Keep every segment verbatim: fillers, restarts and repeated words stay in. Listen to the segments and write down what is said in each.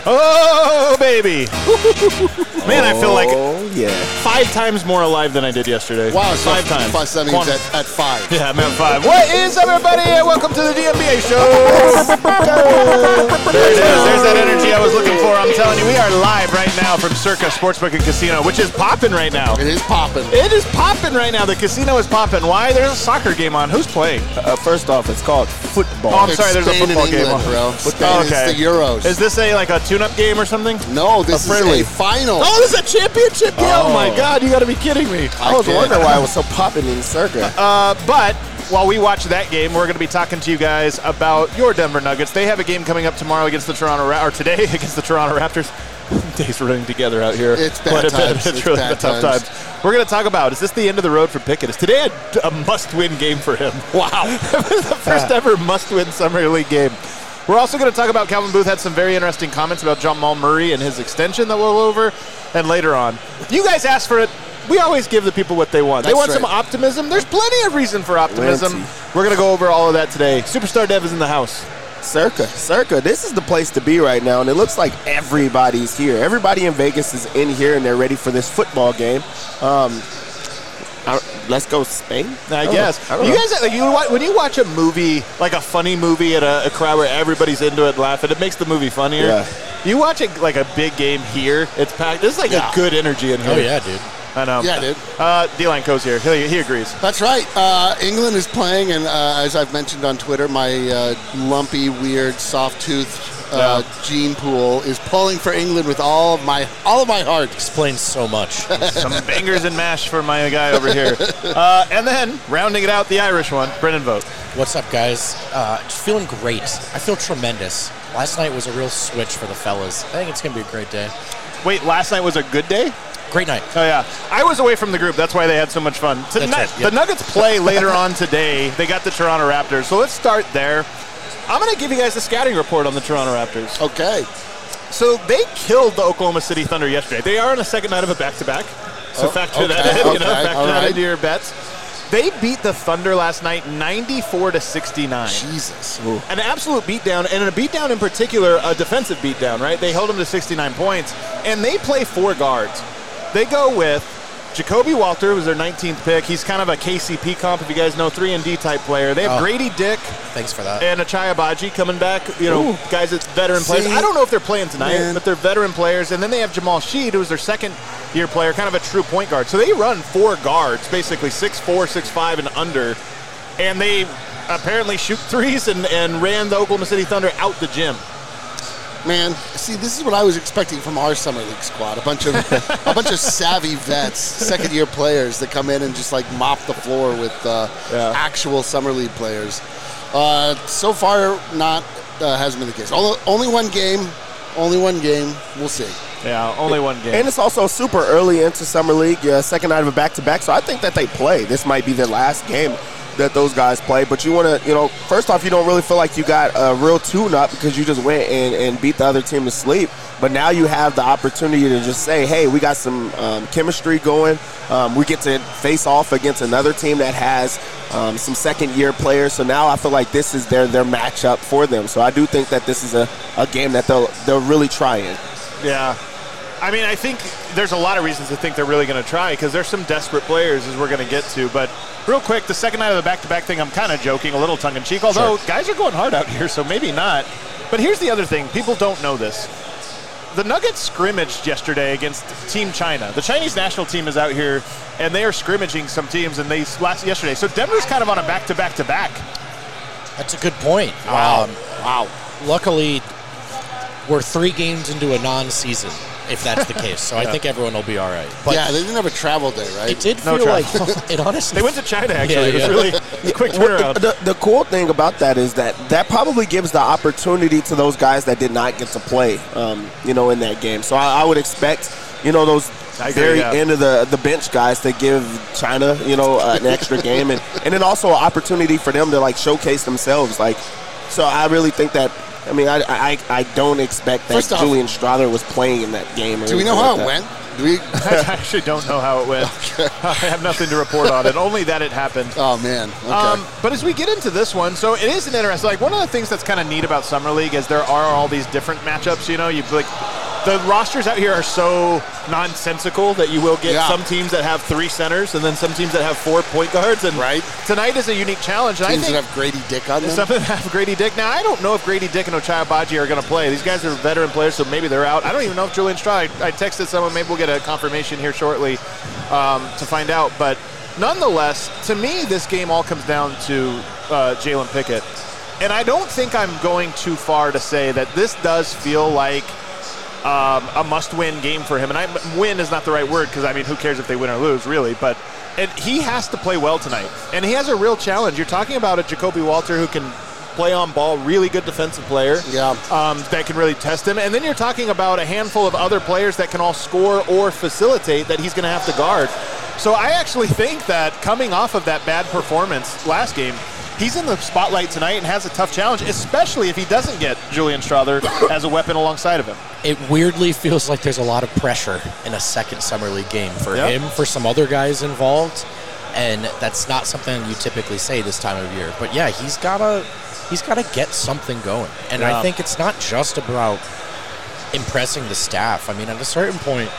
Oh, baby. Man, I feel like oh, yeah. five times more alive than I did yesterday. Wow, so five times. Five, that means at, at five. Yeah, I'm at five. What is up, everybody? And welcome to the D M B A Show. There it is. There's that energy I was looking for. I'm telling you, we are live right now from Circa Sportsbook and Casino, which is popping right now. It is popping. It is popping right now. The casino is popping. Why? There's a soccer game on. Who's playing? Uh, first off, it's called football. Oh, I'm It's sorry. There's Spain a football and game England, on. bro. Spain Oh, okay. is the Euros. Is this a like a tune-up game or something? No, this A friendly. is a final. Oh, this is a championship game. Oh, Oh. my God. You got to be kidding me. I was I wondering why it was so popping in Circa. Uh, but while we watch that game, we're going to be talking to you guys about your Denver Nuggets. They have a game coming up tomorrow against the Toronto Ra- or today against the Toronto Raptors. Days running together out here. It's bad Quite a bit. times. It's, It's really bad tough times. times. We're going to talk about, is this the end of the road for Pickett? Is today a, a must-win game for him? Wow. The first ever must-win Summer League game. We're also going to talk about Calvin Booth had some very interesting comments about Jamal Murray and his extension that we'll go over, and later on. You guys asked for it. We always give the people what they want. They That's want right. some optimism. There's plenty of reason for optimism. Plenty. We're going to go over all of that today. Superstar Dev is in the house. Circa, Circa, this is the place to be right now, and it looks like everybody's here. Everybody in Vegas is in here, and they're ready for this football game. Um, I, let's go Spain. I don't guess. know. I don't You know. guys, like, you wa- when you watch a movie, like a funny movie at a, a crowd where everybody's into it, laughing, it makes the movie funnier. Yeah. You watch it like a big game here, it's packed. There's like Yeah. a good energy in here. Oh, yeah, dude. I know. Yeah, dude. Uh, D-Line Co's here. He, he agrees. That's right. Uh, England is playing, and uh, as I've mentioned on Twitter, my uh, lumpy, weird, soft-toothed uh, Yeah. gene pool is pulling for England with all of my all of my heart. Explains so much. Some bangers and mash for my guy over here. Uh, and then, rounding it out, the Irish one, Brennan Vogt. What's up, guys? Uh, just feeling great. I feel tremendous. Last night was a real switch for the fellas. I think it's going to be a great day. Wait, last night was a good day? Great night. Oh, yeah. I was away from the group. That's why they had so much fun. Tonight, right, yep. The Nuggets play later on today. They got the Toronto Raptors. So let's start there. I'm going to give you guys the scouting report on the Toronto Raptors. Okay. So they killed the Oklahoma City Thunder yesterday. They are on a second night of a back-to-back. So Oh, factor that okay, in, you know, okay, factor all that right. into your bets. They beat the Thunder last night ninety-four to sixty-nine. Jesus. An absolute beatdown, and a beatdown in particular, a defensive beatdown, right? They held them to sixty-nine points, and they play four guards. They go with Jacoby Walter, who's their nineteenth pick. He's kind of a K C P comp, if you guys know, three and D type player. They have Oh. Grady Dick Thanks for that. and Achai Abaji coming back, you know, Ooh. guys that's veteran players. See, I don't know if they're playing tonight, man. but they're veteran players. And then they have Jamal Sheed, who's their second-year player, kind of a true point guard. So they run four guards, basically six four, six five, and under. And they apparently shoot threes and, and ran the Oklahoma City Thunder out the gym. Man, see, this is what I was expecting from our summer league squad. A bunch of a bunch of savvy vets, second year players that come in and just like mop the floor with uh, Yeah. actual summer league players. Uh, so far, not uh, hasn't been the case. Only, only one game, only one game. We'll see. Yeah, only one game. And it's also super early into Summer League, uh, second night of a back-to-back, so I think that they play. This might be their last game that those guys play, but you want to, you know, first off, you don't really feel like you got a real tune-up because you just went and, and beat the other team to sleep, but now you have the opportunity to just say, hey, we got some um, chemistry going. Um, we get to face off against another team that has um, some second-year players, so now I feel like this is their, their matchup for them, so I do think that this is a, a game that they'll, they'll really try in. Yeah. I mean, I think there's a lot of reasons to think they're really going to try because there's some desperate players as we're going to get to. But real quick, the second night of the back-to-back thing, I'm kind of joking, a little tongue-in-cheek, although Sure. guys are going hard out here, so maybe not. But here's the other thing. People don't know this. The Nuggets scrimmaged yesterday against Team China. The Chinese national team is out here, and they are scrimmaging some teams, and they last yesterday. So Denver's kind of on a back-to-back-to-back. That's a good point. Wow. Um, wow. Luckily, we're three games into a non-season, if that's the case. So I think everyone will be all right. But yeah, they didn't have a travel day, right? it did No feel travel. like it honestly. They went to China, actually. Yeah, yeah. It was really it was a quick Well, turnaround. the, the, the cool thing about that is that that probably gives the opportunity to those guys that did not get to play, um, you know, in that game. So I, I would expect, you know, those I agree, very yeah. end of the, the bench guys to give China, you know, uh, an extra game. And, and then also an opportunity for them to, like, showcase themselves. Like, so I really think that I mean, I I, I don't expect that First off- Julian Strother was playing in that game. Or Do we know anything how like it that. went? Do we? I actually don't know how it went. I have nothing to report on it, only that it happened. Oh man. Okay. Um, but as we get into this one, so it is an interesting. Like one of the things that's kind of neat about Summer League is there are all these different matchups. You know, you like the rosters out here are so nonsensical that you will get Yeah. some teams that have three centers and then some teams that have four point guards. And Right. tonight is a unique challenge. And Teams I think that have Grady Dick on them. some that have Grady Dick. Now I don't know if Grady Dick and Ochai Agbaji are going to play. These guys are veteran players, so maybe they're out. I don't even know if Julian Strother. I, I texted someone. Maybe we'll get a confirmation here shortly um, to find out. But nonetheless, to me, this game all comes down to uh, Jalen Pickett. And I don't think I'm going too far to say that this does feel like um, a must-win game for him. And I, win is not the right word because, I mean, who cares if they win or lose, really. But and he has to play well tonight. And he has a real challenge. You're talking about a Jacoby Walter who can play on ball, really good defensive player Yeah. um, that can really test him. And then you're talking about a handful of other players that can all score or facilitate that he's going to have to guard. So I actually think that coming off of that bad performance last game, he's in the spotlight tonight and has a tough challenge, especially if he doesn't get Julian Strother as a weapon alongside of him. It weirdly feels like there's a lot of pressure in a second Summer League game for Yep. him, for some other guys involved, and that's not something you typically say this time of year. But yeah, he's gotta he's gotta get something going, and Yeah. I think it's not just about impressing the staff. I mean, at a certain point,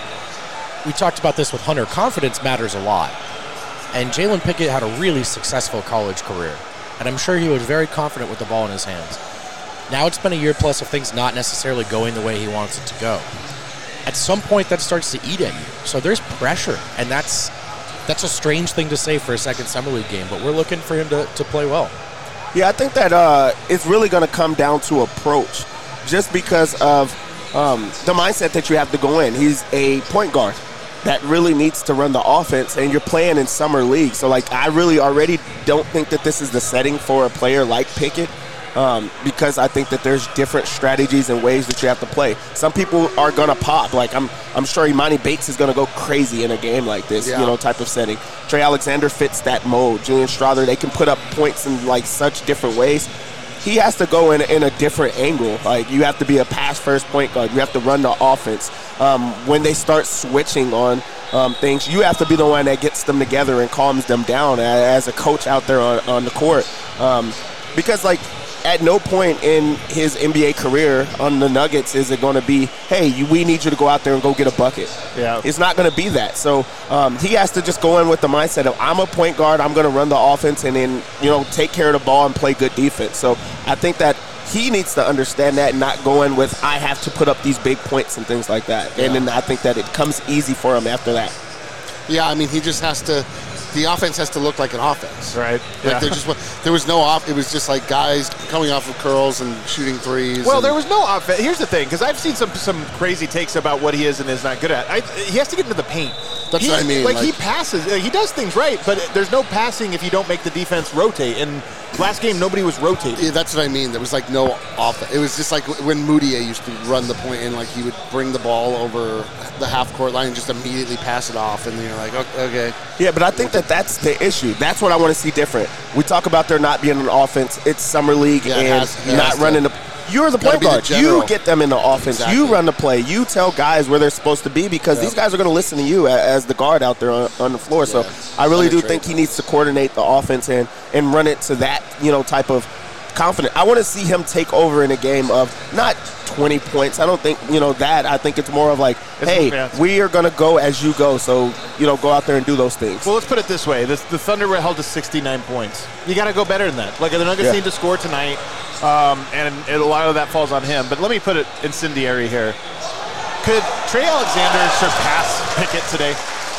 we talked about this with Hunter. Confidence matters a lot, and Jalen Pickett had a really successful college career, and I'm sure he was very confident with the ball in his hands. Now it's been a year plus of things not necessarily going the way he wants it to go. At some point, that starts to eat at you. So there's pressure, and that's that's a strange thing to say for a second Summer League game, but we're looking for him to, to play well. Yeah, I think that uh, it's really going to come down to approach, just because of um, the mindset that you have to go in. He's a point guard that really needs to run the offense, and you're playing in summer league. So, like, I really already don't think that this is the setting for a player like Pickett. Um, because I think that there's different strategies and ways that you have to play. Some people are gonna pop. Like I'm, I'm sure Imani Bates is gonna go crazy in a game like this, Yeah. you know, type of setting. Trey Alexander fits that mode. Julian Strother, they can put up points in like such different ways. He has to go in in a different angle. Like you have to be a pass-first point guard. You have to run the offense. Um, when they start switching on um, things, you have to be the one that gets them together and calms them down as a coach out there on, on the court. Um, because like. At no point in his N B A career on the Nuggets is it going to be, hey, you, we need you to go out there and go get a bucket. Yeah. It's not going to be that. So um, he has to just go in with the mindset of, I'm a point guard, I'm going to run the offense and then, you know, take care of the ball and play good defense. So I think that he needs to understand that and not go in with, I have to put up these big points and things like that. Yeah. And then I think that it comes easy for him after that. Yeah, I mean, he just has to. The offense has to look like an offense. Right. Like Yeah. there just wa- there was no off. It was just like guys coming off of curls and shooting threes. Well, and- there was no offense. Here's the thing, because I've seen some some crazy takes about what he is and is not good at. I, he has to get into the paint. That's He- what I mean, Like, he like- passes, uh, he does things right, but there's no passing if you don't make the defense rotate. And last game, nobody was rotating. Yeah, that's what I mean. There was like no off. It was just like when Moutier used to run the point and like he would bring the ball over the half court line and just immediately pass it off, and you're like, "Okay, okay." Yeah, but I think that that's the issue. That's what I want to see different. We talk about there not being an offense. It's summer league Yeah, it and has- it not has to. running the. You're the Gotta point be the guard. general. You get them in the offense. Exactly. You run the play. You tell guys where they're supposed to be because Yep. these guys are going to listen to you a- as the guard out there on, on the floor. So Yeah. I really do Penetrate. think he needs to coordinate the offense and and run it to that you know type of confidence. I want to see him take over in a game of not twenty points. I don't think you know that. I think it's more of like, It's- hey, yeah. we are going to go as you go. So you know, go out there and do those things. Well, let's put it this way. This, the Thunder were held to sixty-nine points. You got to go better than that. Like, the Nuggets Yeah. need to score tonight, um, and, and a lot of that falls on him. But let me put it incendiary here. Could Trey Alexander surpass Pickett today?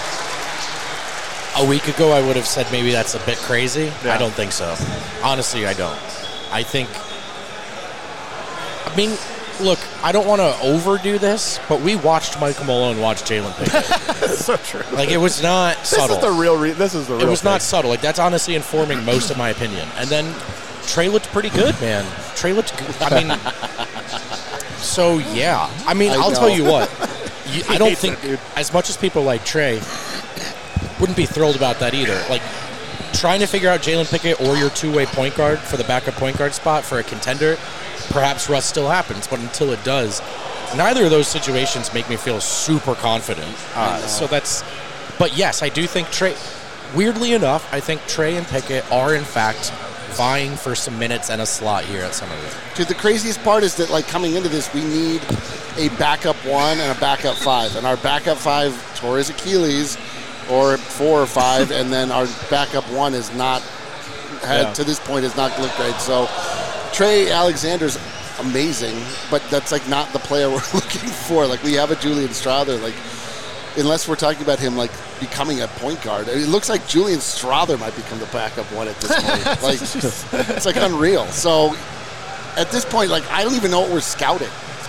A week ago, I would have said maybe that's a bit crazy. Yeah. I don't think so. Honestly, I don't. I think. I mean, look, I don't want to overdo this, but we watched Michael Malone watch Jalen Pickett. That's so true. Like, it was not This subtle. is the real. Re- this is the real. It was thing. not subtle. Like, that's honestly informing most of my opinion. And then Trey looked pretty good, man. Trey looked good. I mean, so yeah. I mean, I I'll know. tell you what. You, I don't hates think, it, dude. as much as people like Trey, wouldn't be thrilled about that either. Like, trying to figure out Jalen Pickett or your two-way point guard for the backup point guard spot for a contender, perhaps rust still happens. But until it does, neither of those situations make me feel super confident. Uh, so that's, but yes, I do think Trey, weirdly enough, I think Trey and Pickett are in fact vying for some minutes and a slot here at Summer League. Dude, the craziest part is that, like, coming into this, we need a backup one and a backup five. And our backup five tore his Achilles, or four or five, and then our backup one is not, had yeah. to this point, has not looked great. So Trey Alexander's amazing, but that's, like, not the player we're looking for. Like, we have a Julian Strawther, like, unless we're talking about him, like, becoming a point guard. It looks like Julian Strawther might become the backup one at this point. Like, it's like unreal. So at this point, like, I don't even know what we're scouting.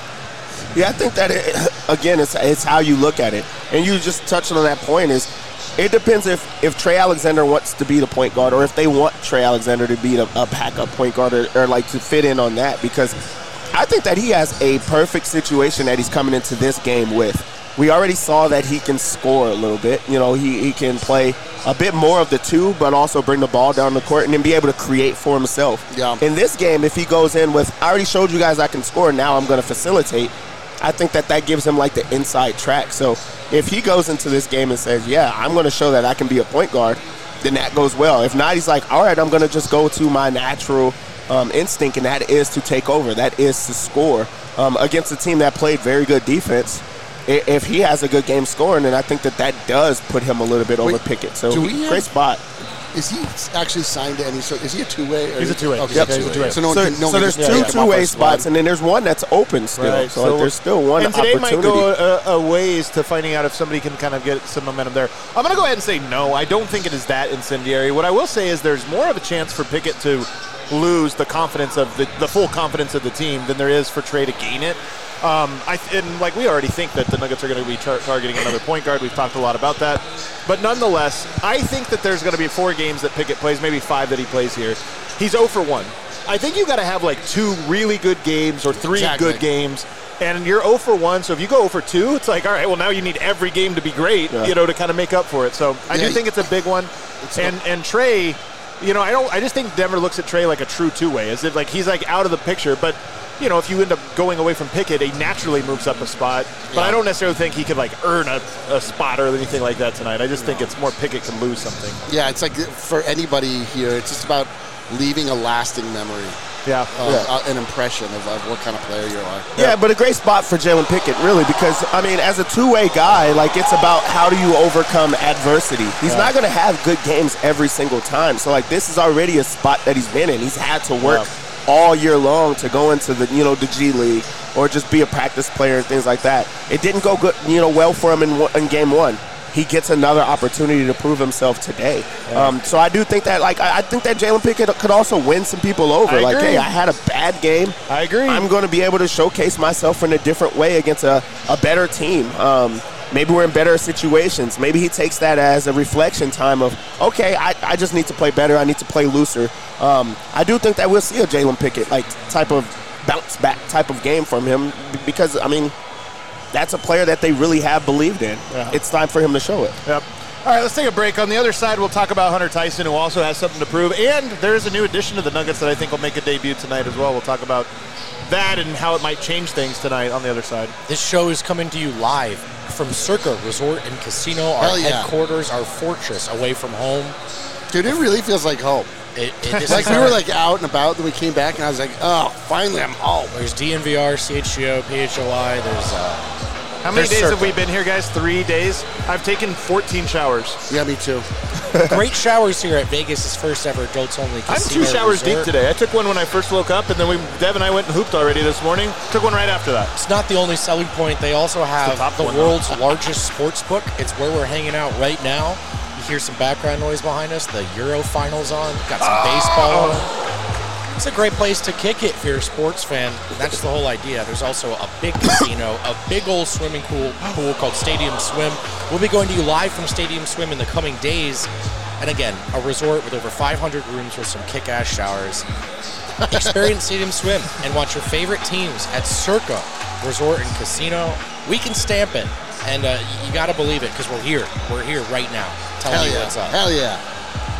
Yeah, I think that, it, again, it's, it's how you look at it. And you just touched on that point is it depends if, if Trey Alexander wants to be the point guard or if they want Trey Alexander to be a, a backup point guard or, or, like, to fit in on that. Because I think that he has a perfect situation that he's coming into this game with. We already saw that he can score a little bit. You know, he, he can play a bit more of the two, but also bring the ball down the court and then be able to create for himself. Yeah. In this game, if he goes in with, I already showed you guys I can score, now I'm going to facilitate, I think that that gives him, like, the inside track. So if he goes into this game and says, yeah, I'm going to show that I can be a point guard, then that goes well. If not, he's like, all right, I'm going to just go to my natural um, instinct, and that is to take over. That is to score um, against a team that played very good defense. If he has a good game scoring, then I think that that does put him a little bit over Wait, Pickett. So do we great have, spot. Is he actually signed to any sort? Is he a two-way? Or He's a two-way. Okay, Yep. he's a two-way. So, no one so, can, no so one there's can two pick him up two-way or spots, slide. and then there's one that's open still. Right, so, so like, there's still one and today opportunity. might go a, a ways to finding out if somebody can kind of get some momentum there. I'm going to go ahead and say no. I don't think it is that incendiary. What I will say is there's more of a chance for Pickett to lose the confidence of the, the full confidence of the team than there is for Trey to gain it. Um, I and like we already think that the Nuggets are going to be tar- targeting another point guard. We've talked a lot about that, but nonetheless, I think that there's going to be four games that Pickett plays, maybe five that he plays here. He's zero for one. I think you got to have like two really good games or three Exactly. good games, and you're zero for one. So if you go zero for two, it's like, all right, well now you need every game to be great, Yeah. you know, to kind of make up for it. So I Yeah, do think it's a big one, and not- and Trey. You know, I don't. I just think Denver looks at Trey like a true two-way, as if like he's like out of the picture. But you know, if you end up going away from Pickett, he naturally moves up a spot. But Yeah. I don't necessarily think he could like earn a, a spot or anything like that tonight. I just think it's more Pickett can lose something. Yeah, it's like for anybody here, it's just about leaving a lasting memory, Yeah. uh, Yeah. uh, an impression of, of what kind of player you are. Yeah, but a great spot for Jalen Pickett, really, because, I mean, as a two-way guy, like, it's about how do you overcome adversity. He's Yeah. not going to have good games every single time. So, like, this is already a spot that he's been in. He's had to work Yeah. all year long to go into the, you know, the G League or just be a practice player and things like that. It didn't go good, you know, well for him in, one, in game one. He gets another opportunity to prove himself today. Yeah. Um, so I do think that, like, I, I think that Jalen Pickett could also win some people over. I like, agree. hey, I had a bad game. I agree. I'm going to be able to showcase myself in a different way against a, a better team. Um, maybe we're in better situations. Maybe he takes that as a reflection time of, okay, I, I just need to play better. I need to play looser. Um, I do think that we'll see a Jalen Pickett like type of bounce back type of game from him because, I mean, that's a player that they really have believed in. Yeah. It's time for him to show it. Yep. All right, let's take a break. On the other side, we'll talk about Hunter Tyson, who also has something to prove. And there is a new addition to the Nuggets that I think will make a debut tonight as well. We'll talk about that and how it might change things tonight on the other side. This show is coming to you live from Circa Resort and Casino, our Hell yeah. headquarters, our fortress away from home. Dude, it really feels like home. It, it, this Like is we our- were like out and about, then we came back, and I was like, oh, finally I'm home. There's D N V R, C H G O, P H O I. There's uh, How many There's days Circa. have we been here, guys? Three days? I've taken fourteen showers. Yeah, me too. great showers here at Vegas' first ever adults only I'm casino two showers resort. deep today. I took one when I first woke up, and then we, Dev and I went and hooped already this morning. Took one right after that. It's not the only selling point. They also have top the, one, world's largest sports book. It's where we're hanging out right now. You hear some background noise behind us. The Euro finals on. Got some Oh. baseball on. It's a great place to kick it if you're a sports fan. That's the whole idea. There's also a big casino, a big old swimming pool, pool called Stadium Swim. We'll be going to you live from Stadium Swim in the coming days. And again, a resort with over five hundred rooms with some kick-ass showers. Experience Stadium Swim and watch your favorite teams at Circa Resort and Casino. We can stamp it, and uh, you got to believe it because we're here. We're here right now. Telling Hell you yeah. what's up. Hell yeah.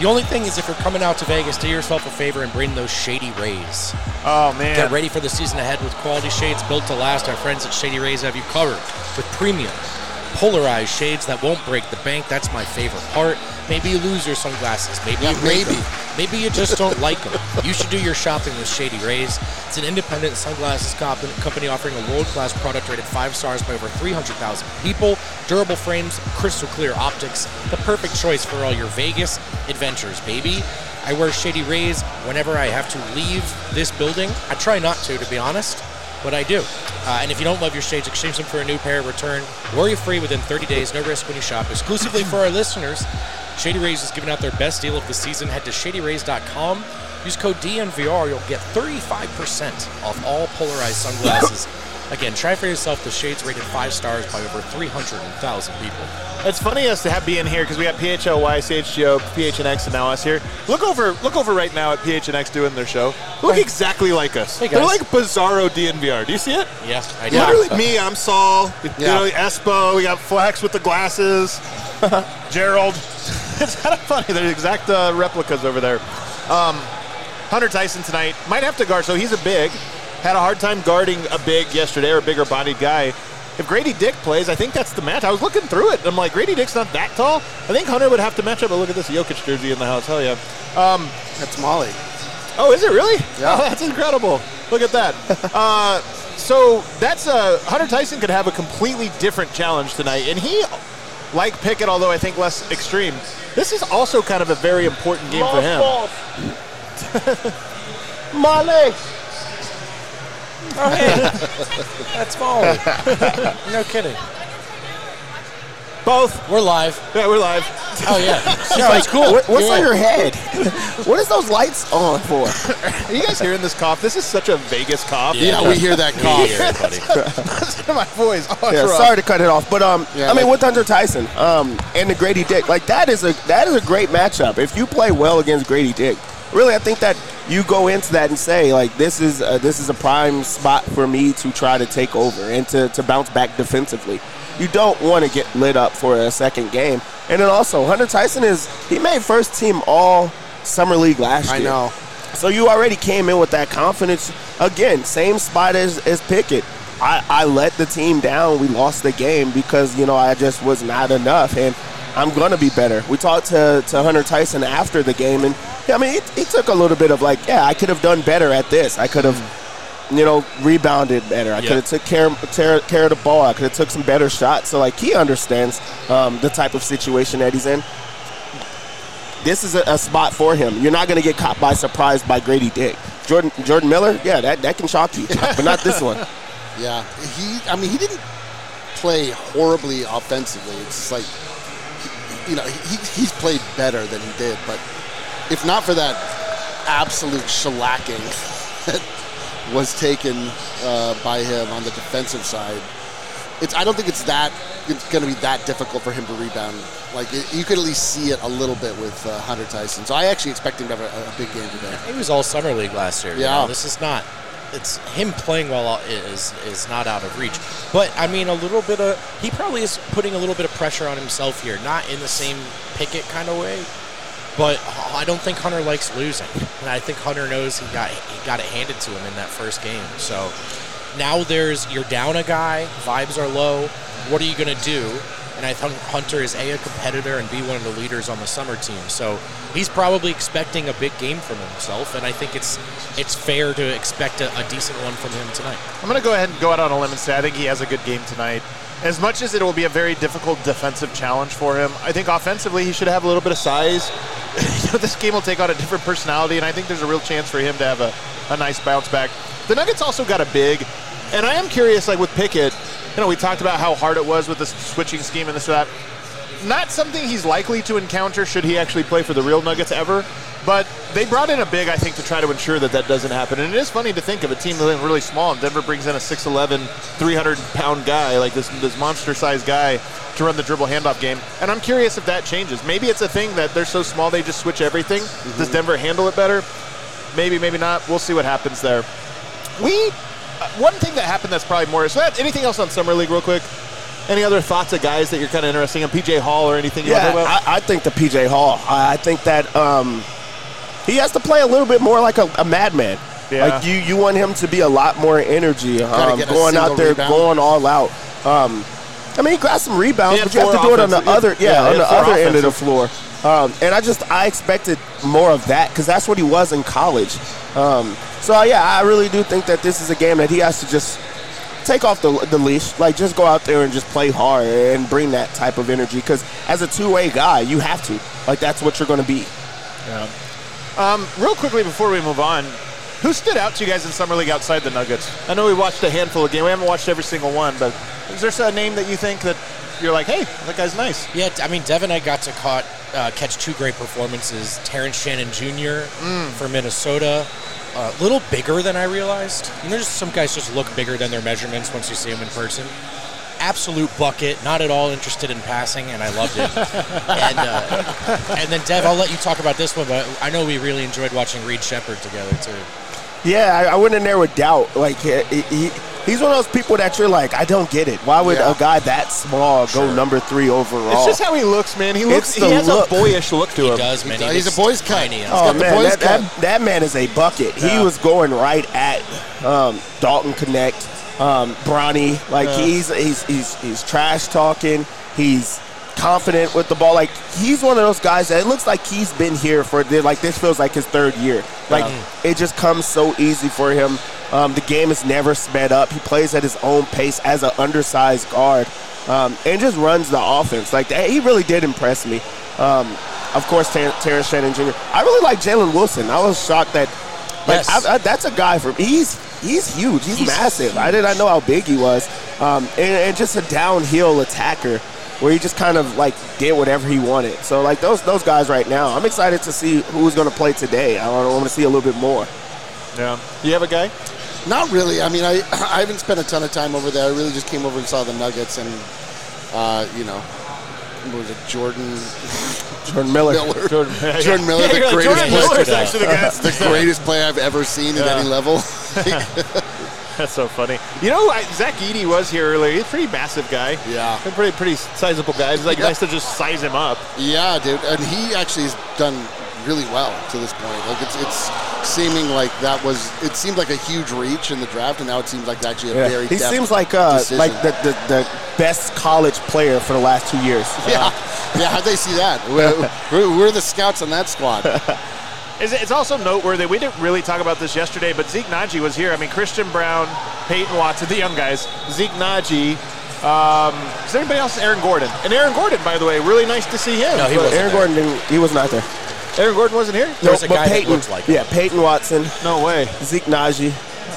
The only thing is if you're coming out to Vegas, do yourself a favor and bring those Shady Rays. Oh, man. Get ready for the season ahead with quality shades built to last. Our friends at Shady Rays have you covered with premium, polarized shades that won't break the bank. That's my favorite part. Maybe you lose your sunglasses. Maybe Yeah, you break maybe. them. Maybe you just don't like them. You should do your shopping with Shady Rays. It's an independent sunglasses comp- company offering a world-class product rated five stars by over three hundred thousand people. Durable frames, crystal clear optics. The perfect choice for all your Vegas adventures, baby. I wear Shady Rays whenever I have to leave this building. I try not to, to be honest, but I do. Uh, and if you don't love your shades, exchange them for a new pair, return worry-free within thirty days, no risk when you shop. Exclusively for our listeners, Shady Rays is giving out their best deal of the season. Head to shady rays dot com. Use code D N V R. You'll get thirty-five percent off all polarized sunglasses. Again, try for yourself the shades rated five stars by over three hundred thousand people. It's funny us to have be in here because we got P H L Y, C H G O, P H N X, and now us here. Look over, look over right now at P H N X doing their show. Look exactly like us. Hey, guys. They're like Bizarro D N V R. Do you see it? Yeah, I do. Yeah. Literally, me, I'm Saul. You Yeah. know, Espo. We got Flex with the glasses. Gerald. It's kind of funny. They're exact uh, replicas over there. Um, Hunter Tyson tonight might have to guard. So he's a big. Had a hard time guarding a big yesterday or a bigger bodied guy. If Grady Dick plays, I think that's the match. I was looking through it, and I'm like, Grady Dick's not that tall. I think Hunter would have to match up. But look at this Jokic jersey in the house. Hell yeah. Um, That's Molly. Oh, is it really? Yeah. Oh, that's incredible. Look at that. uh, so that's uh, Hunter Tyson could have a completely different challenge tonight, and he, like Pickett, although I think less extreme, this is also kind of a very important game for him. Molly! Oh, hey. That's Molly. No kidding. Both. We're live. Yeah, we're live. Oh, yeah. No, That's cool. What, what's Yeah. on your head? What is those lights on for? Are you guys hearing this cough? This is such a Vegas cough. Yeah, we hear that cough. Yeah, buddy. Listen to my voice. Oh, it's Yeah, rough. sorry to cut it off, but um, Yeah, I mean, like- with Hunter Tyson, um, and the Grady Dick, like that is a that is a great matchup. If you play well against Grady Dick, really, I think that you go into that and say like this is a, this is a prime spot for me to try to take over and to, to bounce back defensively. You don't want to get lit up for a second game, and then also Hunter Tyson is he made first team all summer league last I year. know. So you already came in with that confidence. Again, same spot as, as Pickett. I, I let the team down. We lost the game because, you know, I just was not enough, and I'm going to be better. We talked to, to Hunter Tyson after the game, and, I mean, he, he took a little bit of like, yeah, I could have done better at this. I could have, you know, rebounded better. I Yeah. could have took care, care, care of the ball. I could have took some better shots. So, like, he understands um, the type of situation that he's in. This is a, a spot for him. You're not going to get caught by surprise by Grady Dick. Jordan Jordan Miller, yeah, that, that can shock you, but not this one. Yeah, he. I mean, he didn't play horribly offensively. It's just like, you know, he, he's played better than he did. But if not for that absolute shellacking that was taken uh, by him on the defensive side, it's. I don't think it's that. It's going to be that difficult for him to rebound. Like it, you could at least see it a little bit with uh, Hunter Tyson. So I actually expect him to have a, a big game today. He was all summer league last year. you Yeah. know? This is not. It's him playing well is is not out of reach. But I mean, a little bit of he probably is putting a little bit of pressure on himself here, not in the same Pickett kind of way. But I don't think Hunter likes losing, and I think Hunter knows he got he got it handed to him in that first game. So now there's you're down a guy, vibes are low. What are you going to do? And I think Hunter is A, a competitor, and B, one of the leaders on the summer team. So he's probably expecting a big game from himself, and I think it's it's fair to expect a, a decent one from him tonight. I'm going to go ahead and go out on a limb and say I think he has a good game tonight. As much as it will be a very difficult defensive challenge for him, I think offensively he should have a little bit of size. You know, this game will take on a different personality, and I think there's a real chance for him to have a, a nice bounce back. The Nuggets also got a big, and I am curious, like with Pickett, you know, we talked about how hard it was with the switching scheme and this or that. Not something he's likely to encounter should he actually play for the real Nuggets ever. But they brought in a big, I think, to try to ensure that that doesn't happen. And it is funny to think of a team that's really small, and Denver brings in a six eleven, three hundred pound guy, like this, this monster-sized guy, to run the dribble handoff game. And I'm curious if that changes. Maybe it's a thing that they're so small they just switch everything. Mm-hmm. Does Denver handle it better? Maybe, maybe not. We'll see what happens there. We... Uh, one thing that happened that's probably more... So that, anything else on Summer League real quick? Any other thoughts of guys that you're kind of interested in? P J Hall or anything you Yeah, want to talk about? I, I think the P J Hall. I, I think that um, he has to play a little bit more like a, a madman. Yeah. Like you, you want him to be a lot more energy, um, get a going out single there, rebound. going all out. Um, I mean, he got some rebounds, He had but you have to four do it on the offensive- other, yeah, yeah, he on the had four other end of the offensive. floor. Um, and I just, I expected more of that because that's what he was in college. Um, so yeah, I really do think that this is a game that he has to just take off the, the leash, like just go out there and just play hard and bring that type of energy. Because as a two-way guy, you have to. Like that's what you're going to be. Yeah. Um, real quickly before we move on, who stood out to you guys in Summer League outside the Nuggets? I know we watched a handful of games. We haven't watched every single one, but is there a name that you think that you're like, hey, that guy's nice? Yeah, I mean, Dev and I got to caught, uh, catch two great performances. Terrence Shannon Junior Mm. for Minnesota. A little bigger than I realized. You know, just some guys just look bigger than their measurements once you see them in person. Absolute bucket, not at all interested in passing, and I loved it. and uh, and then, Dev, I'll let you talk about this one, but I know we really enjoyed watching Reed Shepherd together, too. Yeah, I, I went in there with doubt. Like he, he, he's one of those people that you're like, I don't get it. Why would Yeah. a guy that small go number three overall? It's just how he looks, man. He looks. It's He the has look. a boyish look to He him. does, man. He He does. was He's a boy's cut. tiny. He's Oh got the man, boys that, cut. that, that man is a bucket. Yeah. He was going right at um, Dalton Connect, um, Bronny. Like Yeah. he's he's he's he's trash talking. He's confident with the ball. Like he's one of those guys that it looks like he's been here for like this feels like his third year. Like it just comes so easy for him. Um, the game is never sped up. He plays at his own pace as an undersized guard, um, and just runs the offense. Like that, he really did impress me. Um, of course, Ter- Terrence Shannon Junior I really like Jalen Wilson. I was shocked that like Yes. I, I, that's a guy from he's he's huge. He's, He's massive. I did not know how big he was, um, and, and just a downhill attacker where he just kind of like did whatever he wanted. So like those those guys right now, I'm excited to see who's going to play today. I want to see a little bit more. Yeah. You have a guy? Not really. I mean, I I haven't spent a ton of time over there. I really just came over and saw the Nuggets and, uh, you know, what was it, Jordan Jordan Miller. Miller. Jordan, Jordan Miller, the Yeah, greatest Jordan player. Miller's actually the guy. the greatest player I've ever seen at Yeah. any level. That's so funny. You know, I, Zach Edey was here earlier. He's a pretty massive guy. Yeah. A pretty, pretty sizable guy. It's like Yeah. nice to just size him up. Yeah, dude, and he actually has done really well to this point. Like it's it's seeming like that was it seemed like a huge reach in the draft, and now it seems like actually a Yeah. very He deft seems like uh, decision. like the, the the best college player for the last two years. yeah, yeah. How'd they see that? We're, we're, we're the scouts on that squad. It's, it's also noteworthy. We didn't really talk about this yesterday, but Zeke Naji was here. I mean, Christian Brown, Peyton Watson, the young guys, Zeke Naji. Um, is there anybody else? Aaron Gordon. And Aaron Gordon, by the way, really nice to see him. No, he But wasn't. Aaron Gordon didn't, he was not there. Aaron Gordon wasn't here? There was a but guy that Peyton, looked like him. yeah, Peyton Watson, No way. Zeke Naji,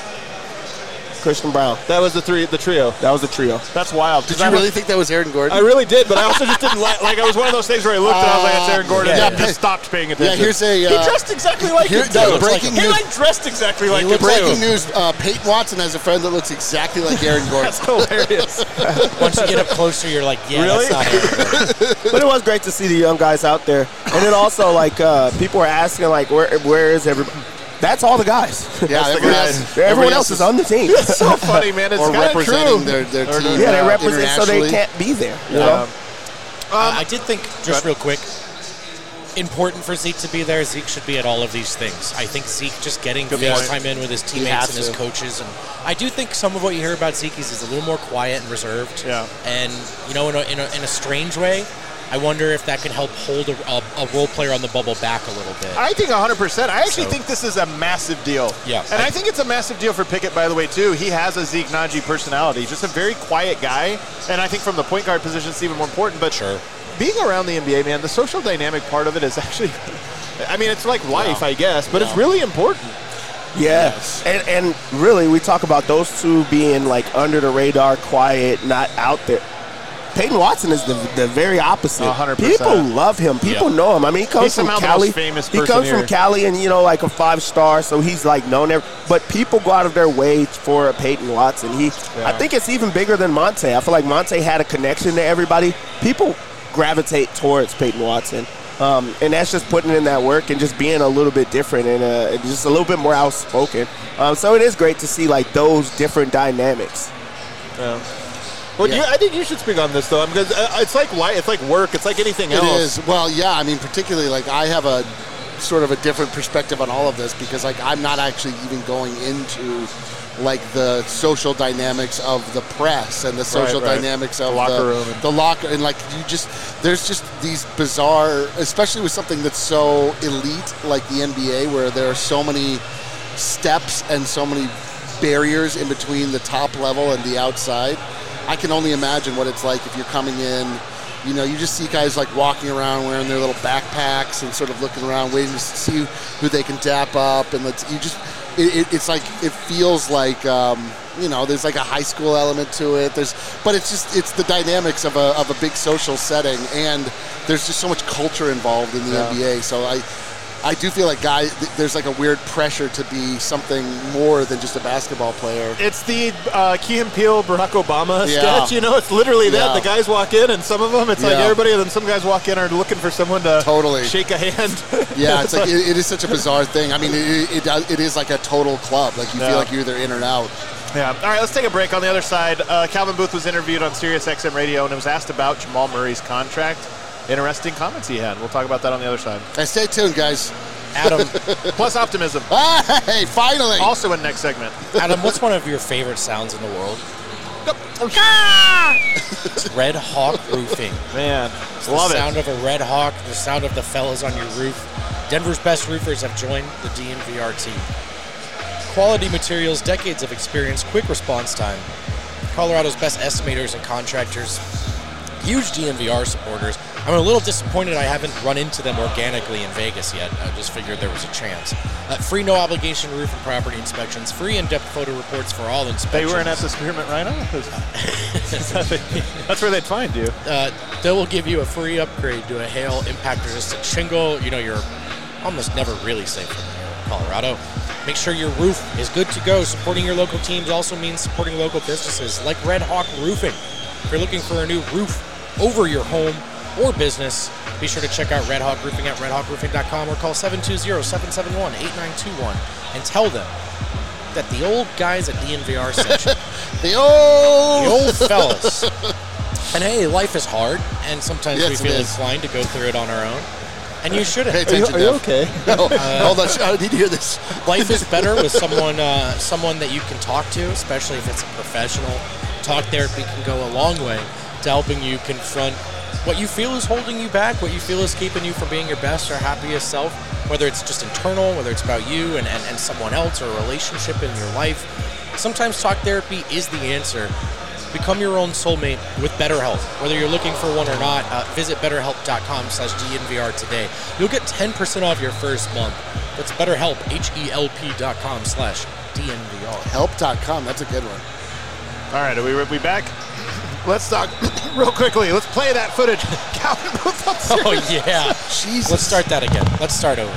Christian Brown. That was the three, the trio. That was the trio. That's wild. Did you really think that was Aaron Gordon? I really did, but I also just didn't like. Like, it was one of those things where I looked and I was like, "It's Aaron Gordon," Yeah, and just stopped paying yeah, attention. here's a. he Uh, dressed exactly like here- him. yeah, too. breaking he news- like dressed exactly like him. breaking too. news: uh, Peyton Watson has a friend that looks exactly like Aaron Gordon. That's hilarious. Once you get up closer, you're like, yeah, Really? that's not Aaron Gordon. But it was great to see the young guys out there. And then also, like, uh, people were asking, like, where where is everybody? That's all the guys. Yeah, That's the everyone guys. else, Everyone else is on the team. It's so funny, man. It's or kind of representing true. their, their Or team. Yeah, they uh, represent so they internationally. can't be there. You Yeah. know? Um, Uh, I did think, just real quick, important for Zeke to be there. Zeke should be at all of these things. I think Zeke just getting Good face point. time in with his has teammates and his to. coaches, and I do think some of what you hear about Zeke is he's a little more quiet and reserved. Yeah. And you know, in a, in a, in a strange way, I wonder if that can help hold a, a, a role player on the bubble back a little bit. I think one hundred percent. I actually So- think this is a massive deal. Yeah. And I, think it's a massive deal for Pickett, by the way, too. He has a Zeke Naji personality, just a very quiet guy. And I think from the point guard position, it's even more important. But Sure. being around the N B A, man, the social dynamic part of it is actually, I mean, it's like life, I guess, but it's really important. Yeah. And, and really, we talk about those two being, like, under the radar, quiet, not out there. Peyton Watson is the, the very opposite. one hundred percent. People love him. People Yeah. know him. I mean, he comes He's from somehow the Cali. most famous he person comes here. from Cali and, you know, like a five-star, so he's, like, known there. But people go out of their way for Peyton Watson. He, Yeah. I think it's even bigger than Monte. I feel like Monte had a connection to everybody. People gravitate towards Peyton Watson. Um, and that's just putting in that work and just being a little bit different and uh, just a little bit more outspoken. Um, so it is great to see, like, those different dynamics. Yeah. Well, Yeah. you, I think you should speak on this though, because uh, it's like li- it's like work. It's like anything It else. is. Well, yeah. I mean, particularly like I have a sort of a different perspective on all of this because like I'm not actually even going into like the social dynamics of the press and the social right. dynamics of The locker the, room and- the locker and like you just there's just these bizarre, especially with something that's so elite like the N B A, where there are so many steps and so many barriers in between the top level and the outside. I can only imagine what it's like if you're coming in. You know, you just see guys like walking around wearing their little backpacks and sort of looking around, waiting to see who they can dap up, and let's, you just, it, it, it's like it feels like, um, you know, there's like a high school element to it. There's, but it's just it's the dynamics of a of a big social setting, and there's just so much culture involved in the Yeah. N B A. So I. I do feel like guy, there's like a weird pressure to be something more than just a basketball player. It's the uh, Key and Peele, Barack Obama Yeah. sketch. You know, it's literally that. Yeah. The guys walk in, and some of them, it's like Yeah. everybody, and then some guys walk in are looking for someone to Totally. shake a hand. Yeah, it's like it, it is such a bizarre thing. I mean, it, it, does- it is like a total club. Like you Yeah. feel like you're either in or out. Yeah. All right, let's take a break. On the other side, uh, Calvin Booth was interviewed on Sirius X M Radio, and it was asked about Jamal Murray's contract. Interesting comments he had. We'll talk about that on the other side. Hey, stay tuned, guys. Adam, Plus optimism. Hey, finally. Also in next segment. Adam, what's one of your favorite sounds in the world? Red Hawk Roofing. Man, The love sound it. of a Red Hawk, the sound of the fellas on your roof. Denver's best roofers have joined the D N V R team. Quality materials, decades of experience, quick response time. Colorado's best estimators and contractors. Huge D N V R supporters. I'm a little disappointed I haven't run into them organically in Vegas yet. I just figured there was a chance. Uh, free no-obligation roof and property inspections. Free in-depth photo reports for all They inspections. weren't at the Spearmint Rhino? That's where they'd find you. Uh, they will give you a free upgrade to a hail impact-resistant shingle. You know, you're almost never really safe from here in Colorado. Make sure your roof is good to go. Supporting your local teams also means supporting local businesses like Red Hawk Roofing. If you're looking for a new roof over your home or business, be sure to check out Red Hawk Roofing at red hawk roofing dot com or call seven two zero, seven seven one, eight nine two one and tell them that the old guys at D N V R sent you. The old. The old fellas. And hey, life is hard, and sometimes Yes, we it feel is. inclined to go through it on our own. And you shouldn't. Pay attention, Dev. okay? No, hold on. I need to hear this. Life is better with someone uh, someone that you can talk to, especially if it's a professional. Talk therapy can go a long way to helping you confront what you feel is holding you back, what you feel is keeping you from being your best or happiest self, whether it's just internal, whether it's about you and, and, and someone else or a relationship in your life. Sometimes talk therapy is the answer. Become your own soulmate with BetterHelp. Whether you're looking for one or not, uh, visit betterhelp.com slash DNVR today. You'll get ten percent off your first month. That's BetterHelp, H-E-L-P dot com slash DNVR. Help dot com. That's a good one. All right, are we, are we back? Let's talk real quickly. Let's play that footage. Calvin Booth on Oh, Sirius. yeah. Jesus. Let's start that again. Let's start over.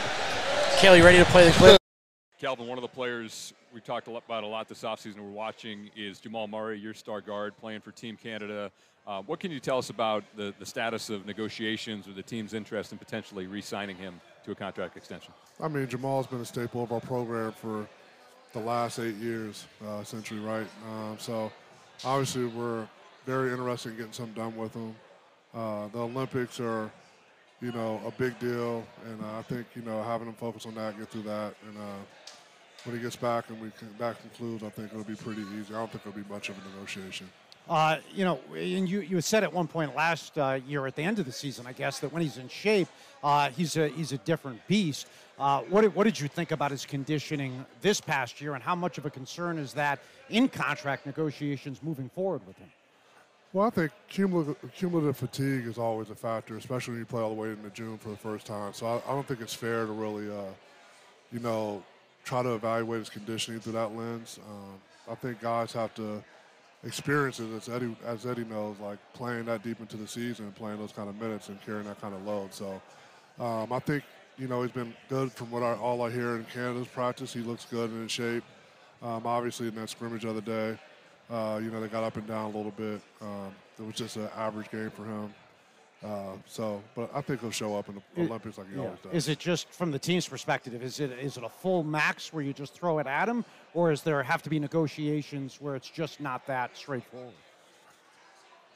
Kaylee, ready to play the clip? Calvin, one of the players we talked a lot about a lot this offseason we're watching is Jamal Murray, your star guard, playing for Team Canada. Uh, what can you tell us about the, the status of negotiations or the team's interest in potentially re-signing him to a contract extension? I mean, Jamal's been a staple of our program for the last eight years, uh, essentially, right? Um, so, obviously, we're very interested in getting something done with him. Uh, the Olympics are, you know, a big deal, and uh, I think, you know, having him focus on that, get through that, and uh, when he gets back and we can, that concludes, I think it'll be pretty easy. I don't think it'll be much of a negotiation. Uh, you know, and you, you said at one point last uh, year at the end of the season, I guess, that when he's in shape, uh, he's a he's a different beast. Uh, what did, what did you think about his conditioning this past year, and how much of a concern is that in contract negotiations moving forward with him? Well, I think cumulative, cumulative fatigue is always a factor, especially when you play all the way into June for the first time. So I, I don't think it's fair to really, uh, you know, try to evaluate his conditioning through that lens. Um, I think guys have to experience it, as Eddie, as Eddie knows, like playing that deep into the season and playing those kind of minutes and carrying that kind of load. So um, I think, you know, he's been good from what I, all I hear in Canada's practice. He looks good and in shape. Um, obviously, in that scrimmage the other day, uh, you know, they got up and down a little bit. Um, it was just an average game for him. Uh, so, but I think he'll show up in the It- Olympics like he Yeah. always does. Is it just from the team's perspective? Is it is it a full max where you just throw it at him, or is there have to be negotiations where it's just not that straightforward?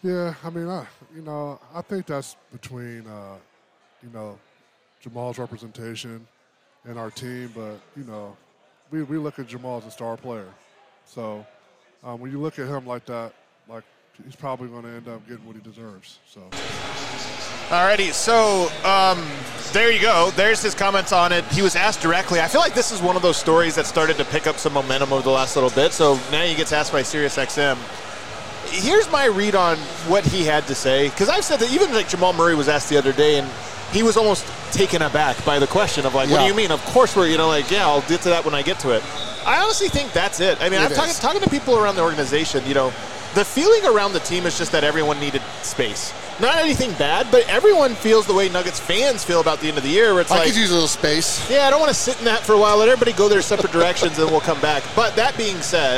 Yeah, I mean, I, you know, I think that's between, uh, you know, Jamal's representation and our team, but, you know, we, we look at Jamal as a star player. So um, when you look at him like that, like, he's probably going to end up getting what he deserves. So. Alrighty, so um, there you go. There's his comments on it. He was asked directly. I feel like this is one of those stories that started to pick up some momentum over the last little bit. So now he gets asked by SiriusXM. Here's my read on what he had to say, because I've said that even like Jamal Murray was asked the other day, and he was almost taken aback by the question of like, yeah. what do you mean? Of course we're, you know, like, yeah, I'll get to that when I get to it. I honestly think that's it. I mean, it I'm talking, talking to people around the organization, you know, the feeling around the team is just that everyone needed space. Not anything bad, but everyone feels the way Nuggets fans feel about the end of the year, where it's I like, could use a little space. Yeah, I don't want to sit in that for a while. Let everybody go their separate directions, and we'll come back. But that being said,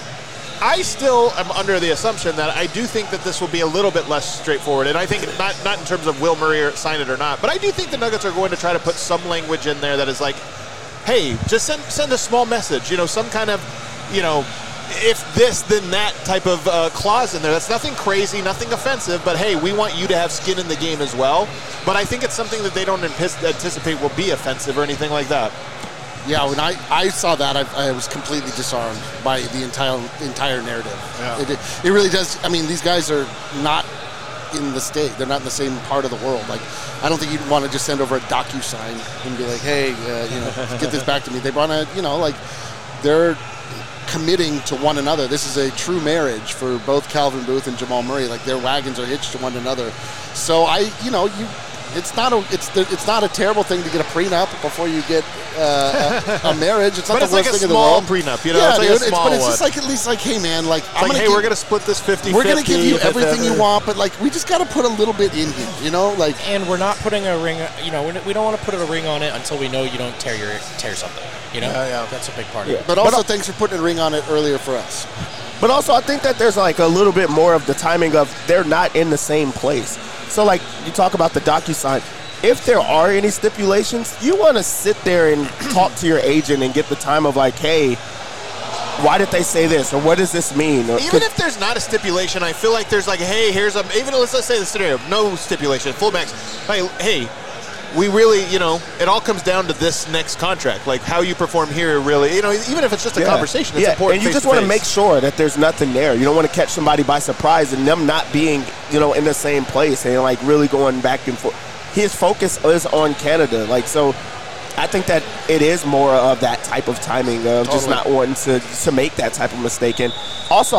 I still am under the assumption that I do think that this will be a little bit less straightforward. And I think not not in terms of will Murray sign it or not, but I do think the Nuggets are going to try to put some language in there that is like, hey, just send send a small message, you know, some kind of, you know, if this, then that type of uh, clause in there. That's nothing crazy, nothing offensive, but hey, we want you to have skin in the game as well. But I think it's something that they don't anticipate will be offensive or anything like that. Yeah, when I, I saw that, I, I was completely disarmed by the entire entire narrative. Yeah. It, it really does. I mean, these guys are not in the state. They're not in the same part of the world. Like, I don't think you'd want to just send over a DocuSign and be like, hey, uh, you know, get this back to me. They want to, you know, like, they're committing to one another. This is a true marriage for both Calvin Booth and Jamal Murray. Like, their wagons are hitched to one another. So I, you know, you. It's not a it's the, it's not a terrible thing to get a prenup before you get uh, a, a marriage. It's not but the it's worst like a thing small in the world. prenup, you know. Yeah, it's like dude, a small it's, but it's one. just like at least like, hey man, like it's I'm like, gonna hey, give, we're gonna split this fifty-fifty. We're gonna give you everything you want, but like we just got to put a little bit in here, you know, like. And we're not putting a ring. You know, we don't want to put a ring on it until we know you don't tear your tear something. You know, yeah, yeah. That's a big part Yeah. of it. But also, but, thanks for putting a ring on it earlier for us. But also, I think that there's like a little bit more of the timing of they're not in the same place. So like you talk about the DocuSign. If there are any stipulations, you want to sit there and talk to your agent and get the time of like, hey, why did they say this? Or what does this mean? Or, even if there's not a stipulation, I feel like there's like, hey, here's a, even let's, let's say the scenario, no stipulation, full max. Hey, hey, we really, you know, it all comes down to this next contract. Like how you perform here really, you know, even if it's just a yeah. conversation, it's yeah. important. And you just want to make sure that there's nothing there. You don't want to catch somebody by surprise and them not being, you know, in the same place and like really going back and forth. His focus is on Canada. Like, so I think that it is more of that type of timing of totally. just not wanting to, to make that type of mistake. And also,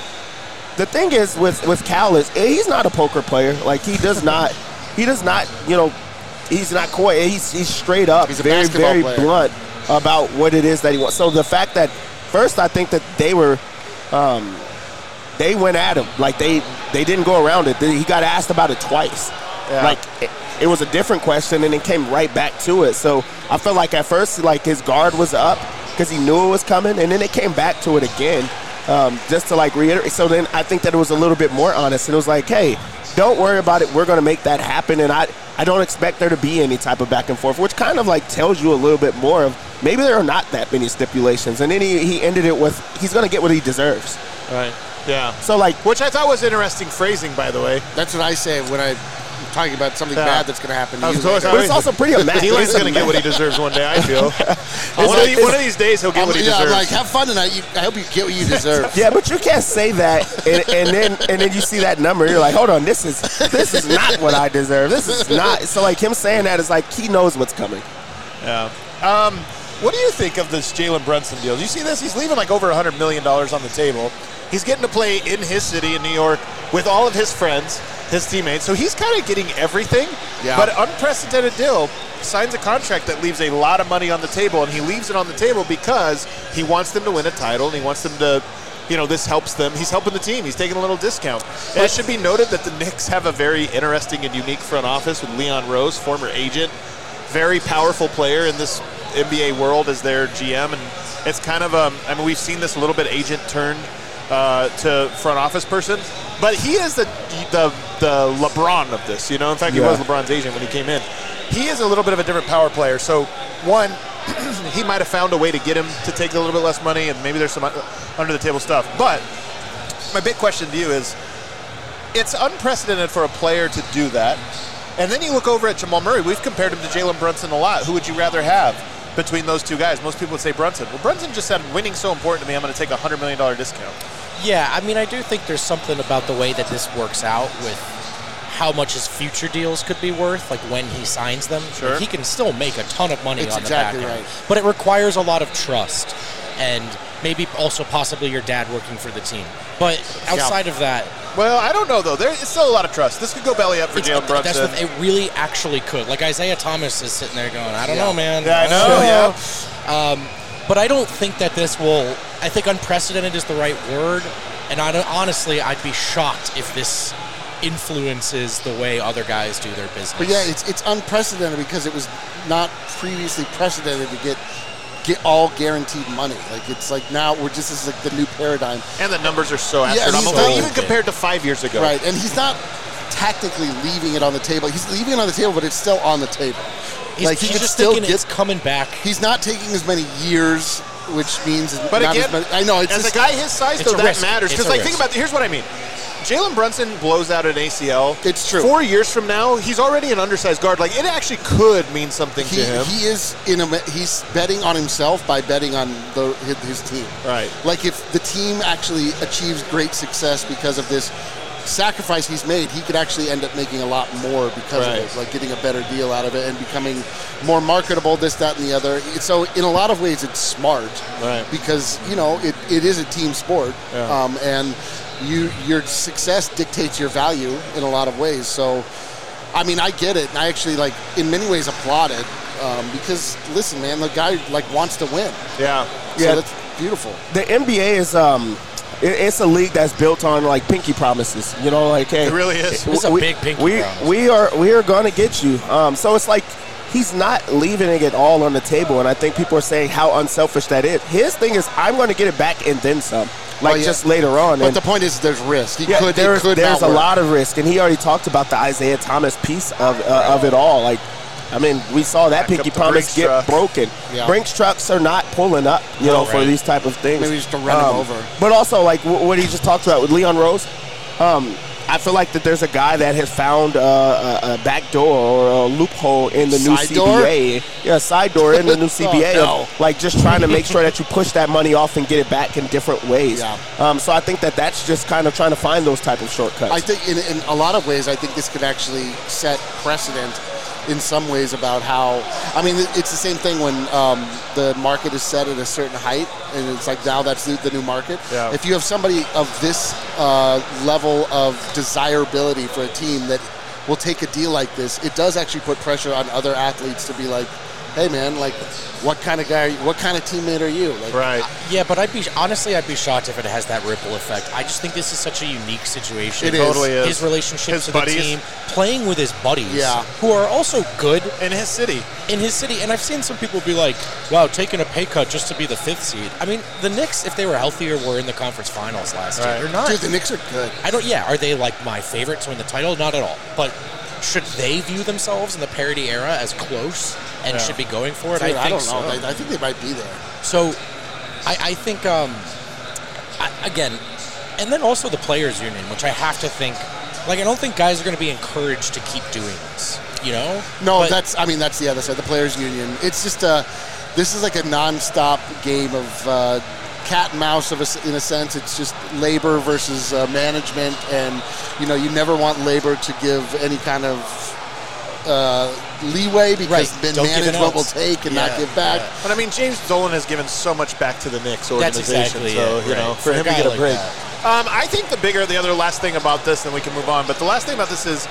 the thing is with, with Cal is he's not a poker player. Like, he does not, he does not, you know, he's not coy. He's, he's straight up, he's a very, very player. blunt about what it is that he wants. So the fact that, first, I think that they were, um, they went at him. Like, they, they didn't go around it. He got asked about it twice. Yeah. Like, it, it was a different question, and it came right back to it. So I felt like at first, like, his guard was up because he knew it was coming, and then it came back to it again um, just to, like, reiterate. So then I think that it was a little bit more honest. And it was like, hey, don't worry about it. We're going to make that happen, and I, I don't expect there to be any type of back and forth, which kind of, like, tells you a little bit more of maybe there are not that many stipulations. And then he, he ended it with he's going to get what he deserves. Right. Yeah. So, like, which I thought was interesting phrasing, by the way. That's what I say when I I'm talking about something yeah. bad that's going to happen to you. But it's also pretty amazing. He's going to get what he deserves one day, I feel. one, of these, one of these days, he'll get I'm, what he yeah, deserves. I'm like, have fun tonight. You, I hope you get what you deserve. Yeah, but you can't say that, and, and then and then you see that number, you're like, hold on, this is this is not what I deserve. This is not. So, like, him saying that is like he knows what's coming. Yeah. Um, what do you think of this Jalen Brunson deal? Do you see this? He's leaving like over one hundred million dollars on the table. He's getting to play in his city in New York with all of his friends, his teammates. So he's kind of getting everything. Yeah. But unprecedented deal, signs a contract that leaves a lot of money on the table, and he leaves it on the table because he wants them to win a title, and he wants them to, you know, this helps them. He's helping the team. He's taking a little discount. And it should be noted that the Knicks have a very interesting and unique front office with Leon Rose, former agent, very powerful player in this N B A world as their G M. And it's kind of, um, I mean, we've seen this a little bit agent turned Uh, to front office person, but he is the the the LeBron of this, you know. In fact, he yeah. was LeBron's agent when he came in. He is a little bit of a different power player. So, one, he might have found a way to get him to take a little bit less money, and maybe there's some under the table stuff. But my big question to you is, it's unprecedented for a player to do that. And then you look over at Jamal Murray. We've compared him to Jalen Brunson a lot. Who would you rather have between those two guys? Most people would say Brunson. Well, Brunson just said, winning's so important to me, I'm going to take a one hundred million dollars discount. Yeah, I mean, I do think there's something about the way that this works out with how much his future deals could be worth, like when he signs them. Sure. Like, he can still make a ton of money It's on exactly the back end. right. But it requires a lot of trust and maybe also possibly your dad working for the team. But outside of that, Well, I don't know, though. There's still a lot of trust. This could go belly up for it's, Jalen Brunson. that's what it really actually could. Like Isaiah Thomas is sitting there going, I don't Yeah. know, man. Yeah, I know, yeah. Um, but I don't think that this will. I think unprecedented is the right word, and I don't, honestly, I'd be shocked if this influences the way other guys do their business. But yeah, it's it's unprecedented because it was not previously precedented to get get all guaranteed money. Like it's like now we're just this is like the new paradigm. And the numbers are so Yeah, he's astronomical, so even good. compared to five years ago. Right, and he's not technically leaving it on the table. He's leaving it on the table, but it's still on the table. He's, like he he's could just still thinking get. it's coming back. He's not taking as many years, which means But not again, as many. I know it's as just, a guy his size, it's though, a that risk. matters. It's Because, a like, risk. think about Here's what I mean. Jalen Brunson blows out an A C L. It's true. Four years from now, he's already an undersized guard. Like, it actually could mean something he, to him. he is in a. He's betting on himself by betting on the, his, his team. Right. Like if the team actually achieves great success because of this sacrifice he's made, he could actually end up making a lot more because Right. of it, like getting a better deal out of it and becoming more marketable, this, that, and the other. So in a lot of ways, it's smart, Right. because you know it, it is a team sport, Yeah. um, and you your success dictates your value in a lot of ways. So, I mean, I get it, and I actually like in many ways applaud it um, because listen, man, the guy like wants to win. Yeah. So Yeah. that's beautiful. The N B A is um, it, it's a league that's built on like pinky promises. You know, like hey, It really is. It's a we, big pinky we, promise. We are we are going to get you. Um, so it's like he's not leaving it all on the table, and I think people are saying how unselfish that is. His thing is, I'm going to get it back and then some. Like Oh, yeah. just later on. But and the point is, there's risk. He yeah, could. there's, it could there's not a work. lot of risk, and he already talked about the Isaiah Thomas piece of uh, of it all. Like, I mean, we saw that Back pinky up the promise Brinks get truck. broken. Yeah. Brinks trucks are not pulling up, you know, for right. these type of things. Maybe just to run him over. But also, like w- what he just talked about with Leon Rose, um, I feel like that there's a guy that has found uh, a, a back door or a loophole in the new Side C B door? A. Yeah, a side door in the new C B A. Oh, no. of, like just trying to make sure that you push that money off and get it back in different ways. Yeah. Um, so I think that that's just kind of trying to find those type of shortcuts. I think in, in a lot of ways, I think this could actually set precedent in some ways about how, I mean, it's the same thing when um, the market is set at a certain height, and it's like now that's the, the new market. Yeah. If you have somebody of this uh, level of desirability for a team that will take a deal like this, it does actually put pressure on other athletes to be like, hey man, like, what kind of guy, are you, what kind of teammate are you? Like, Right. Yeah, but I'd be honestly, I'd be shocked if it has that ripple effect. I just think this is such a unique situation. It is. Totally is. His relationship His to buddies. the team, playing with his buddies, Yeah. who are also good In his city. in his city. And I've seen some people be like, "Wow, taking a pay cut just to be the fifth seed." I mean, the Knicks, if they were healthier, were in the conference finals last Right. year. They're not. Dude, the Knicks are good. I don't. Yeah, are they like my favorite to win the title? Not at all. But should they view themselves in the parity era as close and Yeah. should be going for it? Dude, I I, think don't so. know. I, I think they might be there. So, I, I think, um, I, again, and then also the players' union, which I have to think, like, I don't think guys are going to be encouraged to keep doing this, you know? No, But- that's. I mean, that's the other side. The players' union. It's just a. This is like a nonstop game of uh, cat and mouse. Of a, in a sense, it's just labor versus uh, management, and you know, you never want labor to give any kind of uh, leeway because Right. then Don't give an management will ounce. take and Yeah, not give back. yeah. But I mean, James Dolan has given so much back to the Knicks That's organization. exactly so, it, you know, right. for For a him to guy get a like break. that. Um, I think the bigger, the other last thing about this, then we can move on. But the last thing about this is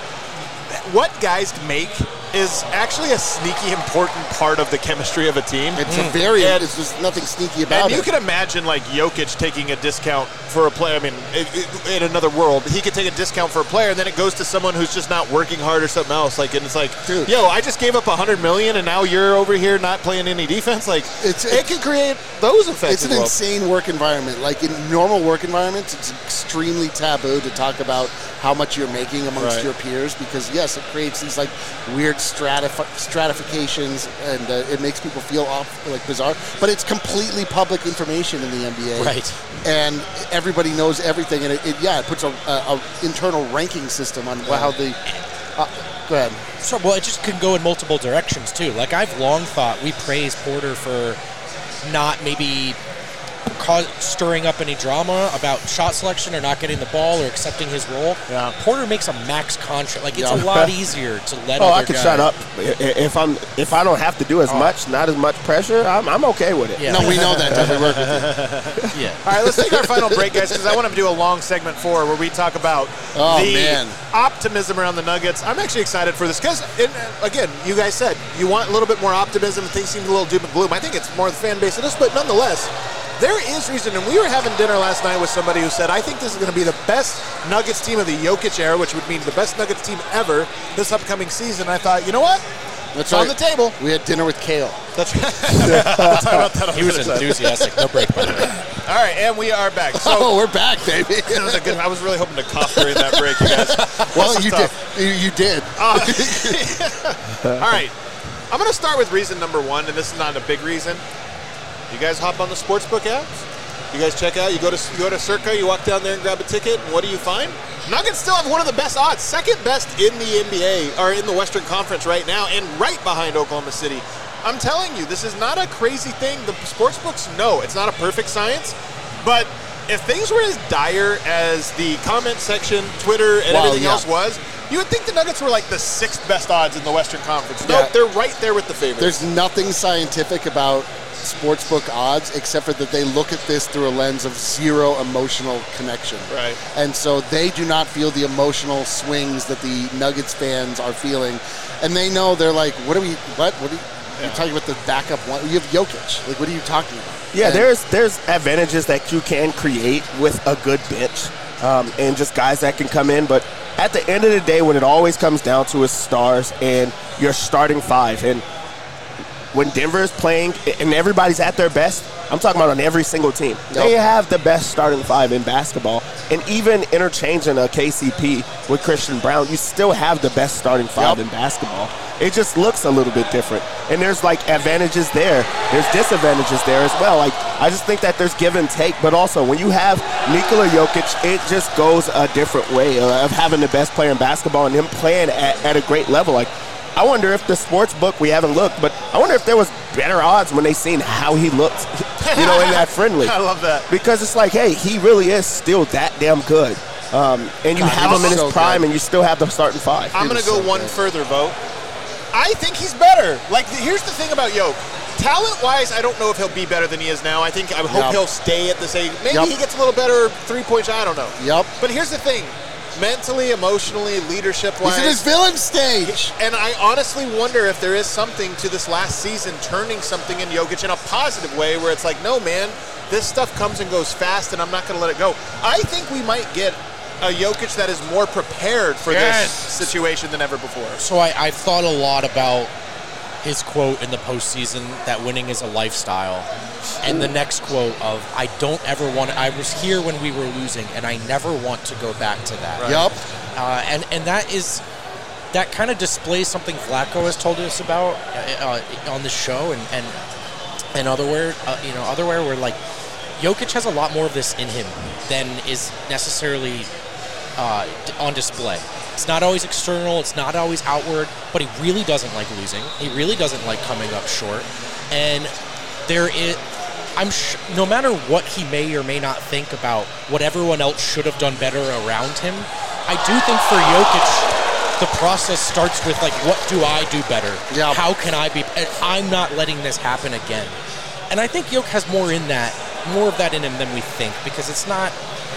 what guys make is actually a sneaky important part of the chemistry of a team. It's a very. And- it's just nothing sneaky about And you it. can imagine, like, Jokic taking a discount for a player. I mean, i- i- in another world, he could take a discount for a player, and then it goes to someone who's just not working hard or something else. Like, and it's like, Dude. yo, I just gave up a hundred million, and now you're over here not playing any defense. Like, It's- it can create those effects. It's an as well. insane work environment. Like in normal work environments, it's extremely taboo to talk about how much you're making amongst Right. your peers, because yes, it creates these like weird stratif- stratifications, and uh, it makes people feel off, like bizarre. But it's completely public information in the N B A, Right. And everybody knows everything, and it, it yeah, it puts a, a, a internal ranking system on how the. Uh, go ahead. So, well, it just can go in multiple directions, too. Like, I've long thought we praise Porter for not maybe cause, stirring up any drama about shot selection or not getting the ball or accepting his role. Yeah. Porter makes a max contract. Like, it's Yeah. a lot easier to let Oh, other I could guys. shut up I- if I'm if I don't have to do as Oh. much, not as much pressure. I'm, I'm okay with it. Yeah. No, we know that. Does we work with you? Yeah. All right, let's take our final break, guys, because I want to do a long segment four where we talk about Oh, the man. optimism around the Nuggets. I'm actually excited for this because, again, you guys said you want a little bit more optimism. Things seem a little doom and gloom. I think it's more the fan base of this, but nonetheless, there is reason. And we were having dinner last night with somebody who said, I think this is going to be the best Nuggets team of the Jokic era, which would mean the best Nuggets team ever this upcoming season. I thought, you know what? That's It's on right. the table. We had dinner with Kale. That's right. We'll talk about that on He was the other side. enthusiastic. No break, by the way. All right, and we are back. So, Oh, we're back, baby. that was a good, I was really hoping to cough during that break, you guys. Well, This is you tough. did. You, you did. All right. I'm going to start with reason number one, and this is not a big reason. You guys hop on the sportsbook apps? You guys check out, you go to you go to Circa, you walk down there and grab a ticket, and what do you find? Nuggets still have one of the best odds, second best in the N B A, or in the Western Conference right now, and right behind Oklahoma City. I'm telling you, this is not a crazy thing. The sportsbooks know it's not a perfect science, but if things were as dire as the comment section, Twitter, and Wow, everything yeah. else was, you would think the Nuggets were like the sixth best odds in the Western Conference. Yeah. Nope, they're right there with the favorites. There's nothing scientific about sportsbook odds except for that they look at this through a lens of zero emotional connection. Right. And so they do not feel the emotional swings that the Nuggets fans are feeling. And they know they're like, what are we, what? What are you, you're talking about the backup one? You have Jokic. Like, what are you talking about? Yeah, And- there's there's advantages that you can create with a good bench, um, and just guys that can come in. But at the end of the day, when it always comes down to is stars and your starting five, and when Denver is playing and everybody's at their best, I'm talking about on every single team. Yep. They have the best starting five in basketball. And even interchanging a K C P with Christian Brown, you still have the best starting five Yep. in basketball. It just looks a little bit different. And there's like advantages there. There's disadvantages there as well. Like, I just think that there's give and take, but also when you have Nikola Jokic, it just goes a different way of having the best player in basketball and him playing at, at a great level. Like, I wonder if the sports book, we haven't looked, but I wonder if there was better odds when they seen how he looked, you know, in that friendly. I love that. Because it's like, hey, he really is still that damn good. Um, and you God, have he's him in his so prime, good. and you still have the starting five. I'm going to was go so one good. further, vote. I think he's better. Like, here's the thing about Yoke. Talent-wise, I don't know if he'll be better than he is now. I think I hope Yep. he'll stay at the same. Maybe Yep. he gets a little better three-point shot. I don't know. Yep. But here's the thing. Mentally, emotionally, leadership-wise. He's in his villain stage. And I honestly wonder if there is something to this last season turning something in Jokic in a positive way where it's like, no, man, this stuff comes and goes fast and I'm not going to let it go. I think we might get a Jokic that is more prepared for Yes. this situation than ever before. So I, I've thought a lot about his quote in the postseason that winning is a lifestyle. And the next quote of, I don't ever want to, I was here when we were losing, and I never want to go back to that. Yup. Uh, and, and that is, that kind of displays something Flacco has told us about uh, uh, on the show and, and, and otherwhere, uh, you know, otherwhere where, like, Jokic has a lot more of this in him than is necessarily uh, d- on display. It's not always external, it's not always outward, but he really doesn't like losing. He really doesn't like coming up short. And there is, I'm sh- no matter what he may or may not think about what everyone else should have done better around him, I do think for Jokic, the process starts with, like, what do I do better? Yeah. How can I be, and I'm not letting this happen again. And I think Jokic has more in that, more of that in him than we think, because it's not,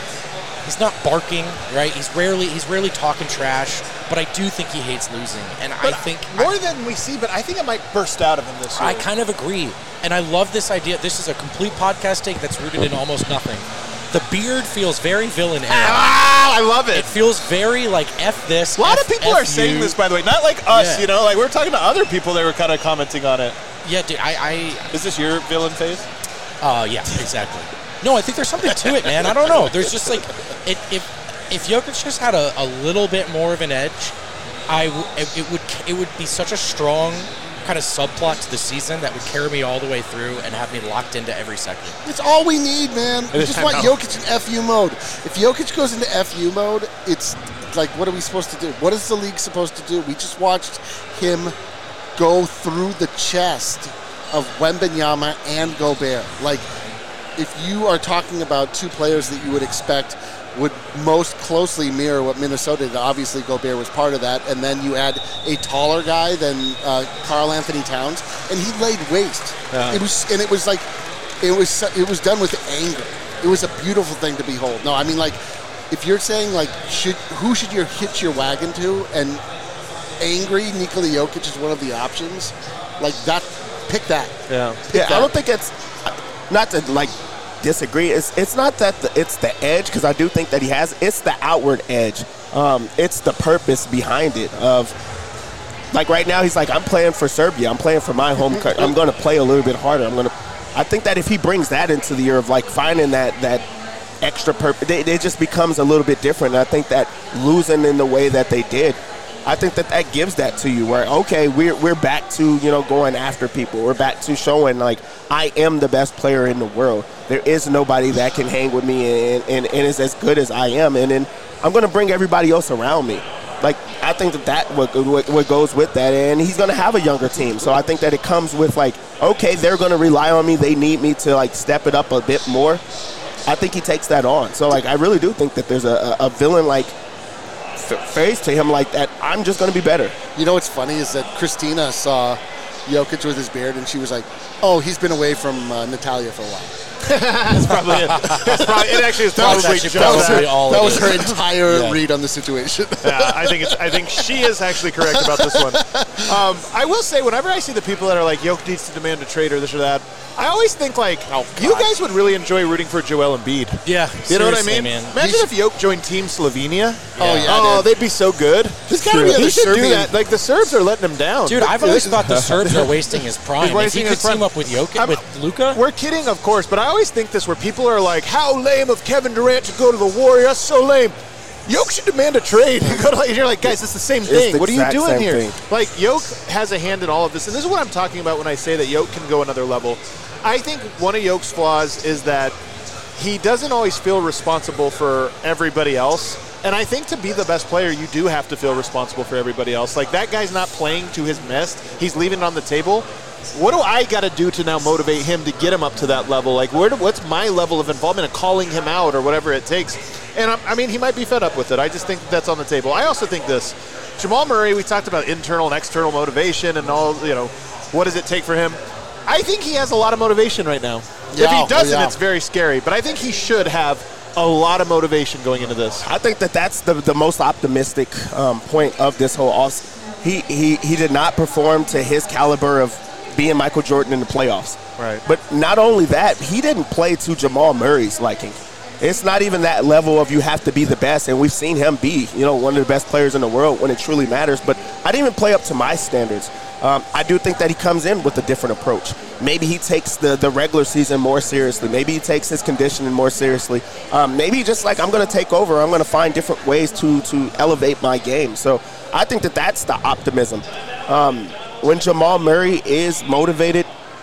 he's not barking, right? He's rarely he's rarely talking trash, but I do think he hates losing. And But I think more I, than we see, but I think it might burst out of him this year. I kind of agree. And I love this idea. This is a complete podcast take that's rooted in almost nothing. The beard feels very villain-era. Ah, I love It it. feels very like F this. A lot F, of people F are saying you. this, by the way, not like us, Yeah. you know, like we're talking to other people that were kind of commenting on it. Yeah, dude, I, Is this your villain phase? I uh, yeah, exactly. No, I think there's something to it, man. I don't know. There's just like, it, if if Jokic just had a, a little bit more of an edge, I w- it, it would it would be such a strong kind of subplot to the season that would carry me all the way through and have me locked into every second. It's all we need, man. We just I want know. Jokic in F U mode. If Jokic goes into F U mode, it's like, what are we supposed to do? What is the league supposed to do? We just watched him go through the chest of Wembanyama and Gobert. Like, if you are talking about two players that you would expect would most closely mirror what Minnesota did, obviously Gobert was part of that, and then you add a taller guy than uh, Karl Anthony Towns, and he laid waste. Yeah. It was, and it was like, it was, it was done with anger. It was a beautiful thing to behold. No, I mean, like, if you're saying, like, should who should you hitch your wagon to, and angry Nikola Jokic is one of the options, like, that, pick that. Yeah. Pick Yeah, that. I don't think it's not to like disagree. It's it's not that the, it's the edge, because I do think that he has. It's the outward edge. Um, it's the purpose behind it. Of like right now, he's like, I'm playing for Serbia. I'm playing for my home country. I'm going to play a little bit harder. I'm going to. I think that if he brings that into the year of like finding that that extra purpose, it, it just becomes a little bit different. And I think that losing in the way that they did, I think that that gives that to you where, okay, we're we're back to, you know, going after people. We're back to showing, like, I am the best player in the world. There is nobody that can hang with me and, and, and is as good as I am. And then I'm going to bring everybody else around me. Like, I think that that what, what, what goes with that. And he's going to have a younger team. So I think that it comes with, like, okay, they're going to rely on me. They need me to, like, step it up a bit more. I think he takes that on. So, like, I really do think that there's a, a villain, like, face to him like that. I'm just going to be better. You know what's funny is that Christina saw Jokic with his beard, and she was like, "Oh, he's been away from uh, Natalia for a while." That's probably it. That's probably, it actually is probably That's just actually That was that. her, all that it was is. her entire Yeah. read on the situation. Yeah, I think it's. I think she is actually correct about this one. Um, I will say, whenever I see the people that are like, Jokic needs to demand a trade or this or that, I always think like, Oh, you God. guys would really enjoy rooting for Joel Embiid. Yeah, You know what I seriously, mean? man. Imagine He's- if Jokic joined Team Slovenia. Oh, yeah, Oh, dude. they'd be so good. There's gotta be other He should do Serbian- that. Like the Serbs are letting him down. Dude, I've always thought the Serbs are wasting his prime. He's If wasting he his could team prime. up with Jokic, I'm- with Luka, We're kidding, of course, but I always think this where people are like, how lame of Kevin Durant to go to the Warriors. That's so lame. Jokic should demand a trade. You go to, and you're like, guys, it's the same It's thing. the What are you exact doing same here? thing. Like, Jokic has a hand in all of this, and this is what I'm talking about when I say that Jokic can go another level. I think one of Jokic's flaws is that he doesn't always feel responsible for everybody else. And I think to be the best player, you do have to feel responsible for everybody else. Like, that guy's not playing to his best. He's leaving it on the table. What do I got to do to now motivate him to get him up to that level? Like, where do, what's my level of involvement in calling him out or whatever it takes? And, I, I mean, he might be fed up with it. I just think that's on the table. I also think this. Jamal Murray, we talked about internal and external motivation and all, you know, what does it take for him? I think he has a lot of motivation right now. Yeah, if he oh, doesn't, yeah. it's very scary. But I think he should have a lot of motivation going into this. I think that that's the, the most optimistic um, point of this whole off. He, he he did not perform to his caliber of being Michael Jordan in the playoffs. Right. But not only that, he didn't play to Jamal Murray's liking. It's not even that level of you have to be the best, and we've seen him be, you know, one of the best players in the world when it truly matters. But I didn't even play up to my standards. Um, I do think that he comes in with a different approach. Maybe he takes the, the regular season more seriously. Maybe he takes his conditioning more seriously. Um, maybe just like, I'm going to take over. I'm going to find different ways to to elevate my game. So I think that that's the optimism. Um, when Jamal Murray is motivated,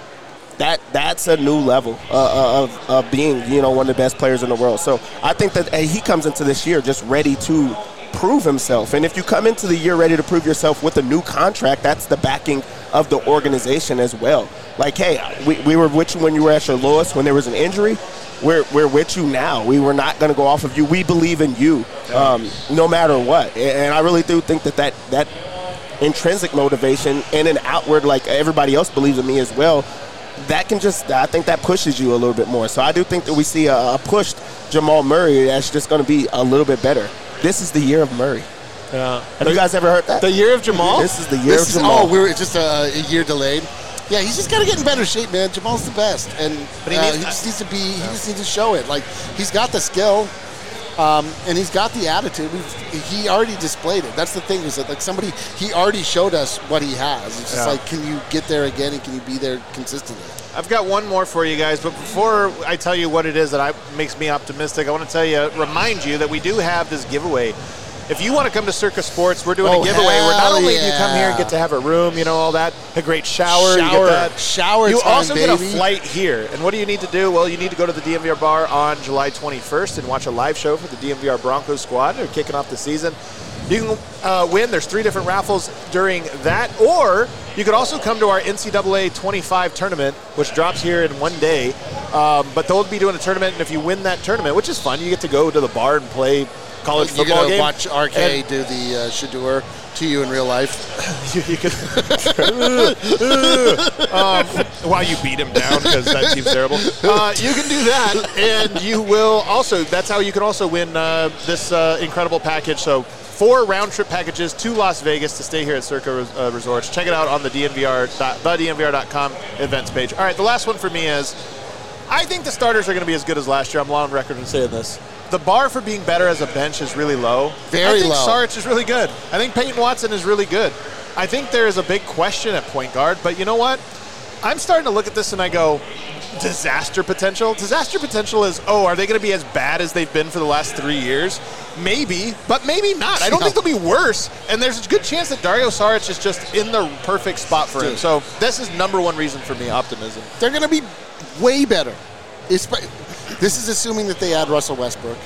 that that's a new level uh, of, of being, you know, one of the best players in the world. So I think that uh, he comes into this year just ready to prove himself. And if you come into the year ready to prove yourself with a new contract, that's the backing of the organization as well. Like, hey, we, we were with you when you were at your lowest, when there was an injury. We're, we're with you now. We were not going to go off of you. We believe in you um, no matter what. And I really do think that that, that intrinsic motivation and an outward, like everybody else believes in me as well, that can just, I think that pushes you a little bit more. So I do think that we see a, a pushed Jamal Murray that's just going to be a little bit better. This is the year of Murray. Yeah. Have you guys ever heard that? The year of Jamal? This is the year This of is, Jamal. oh, we're just a, a year delayed. Yeah, he's just got to get in better shape, man. Jamal's the best, and But he uh, needs- he just needs to be. He just needs to show it. Like, he's got the skill, um, and he's got the attitude. We've, he already displayed it. That's the thing, is that like somebody he already showed us what he has. It's just Yeah. like, can you get there again, and can you be there consistently? I've got one more for you guys, but before I tell you what it is that I, makes me optimistic, I want to tell you, remind you that we do have this giveaway. If you want to come to Circa Sports, we're doing Oh, a giveaway where not hell only do you come here and yeah. get to have a room, you know, all that, a great shower, you Shower- get that. shower You time, also get a baby. flight here. And what do you need to do? Well, you need to go to the D M V R bar on July twenty-first and watch a live show for the D M V R Broncos squad. They're kicking off the season. You can uh, win. There's three different raffles during that. Or you could also come to our N C double A twenty-five tournament, which drops here in one day. Um, but they'll be doing a tournament, and if you win that tournament, which is fun, you get to go to the bar and play college You're football gonna game. watch R K And- do the uh, Shador to you in real life. you, you could um, while you beat him down because that seems terrible. Uh, you can do that, and you will also. That's how you can also win uh, this uh, incredible package. So four round trip packages to Las Vegas to stay here at Circa uh, Resorts. Check it out on the D N V R dot, the D N V R dot com events page. All right, the last one for me is I think the starters are going to be as good as last year. I'm on record in saying this. The bar for being better as a bench is really low. Very I think low. Saric is really good. I think Peyton Watson is really good. I think there is a big question at point guard, but you know what? I'm starting to look at this and I go, disaster potential? Disaster potential is, oh, are they going to be as bad as they've been for the last three years? Maybe, but maybe not. I don't think they'll be worse, and there's a good chance that Dario Saric is just in the perfect spot for him. Dude. So this is number one reason for me, optimism. They're going to be way better. Espe- This is assuming that they add Russell Westbrook.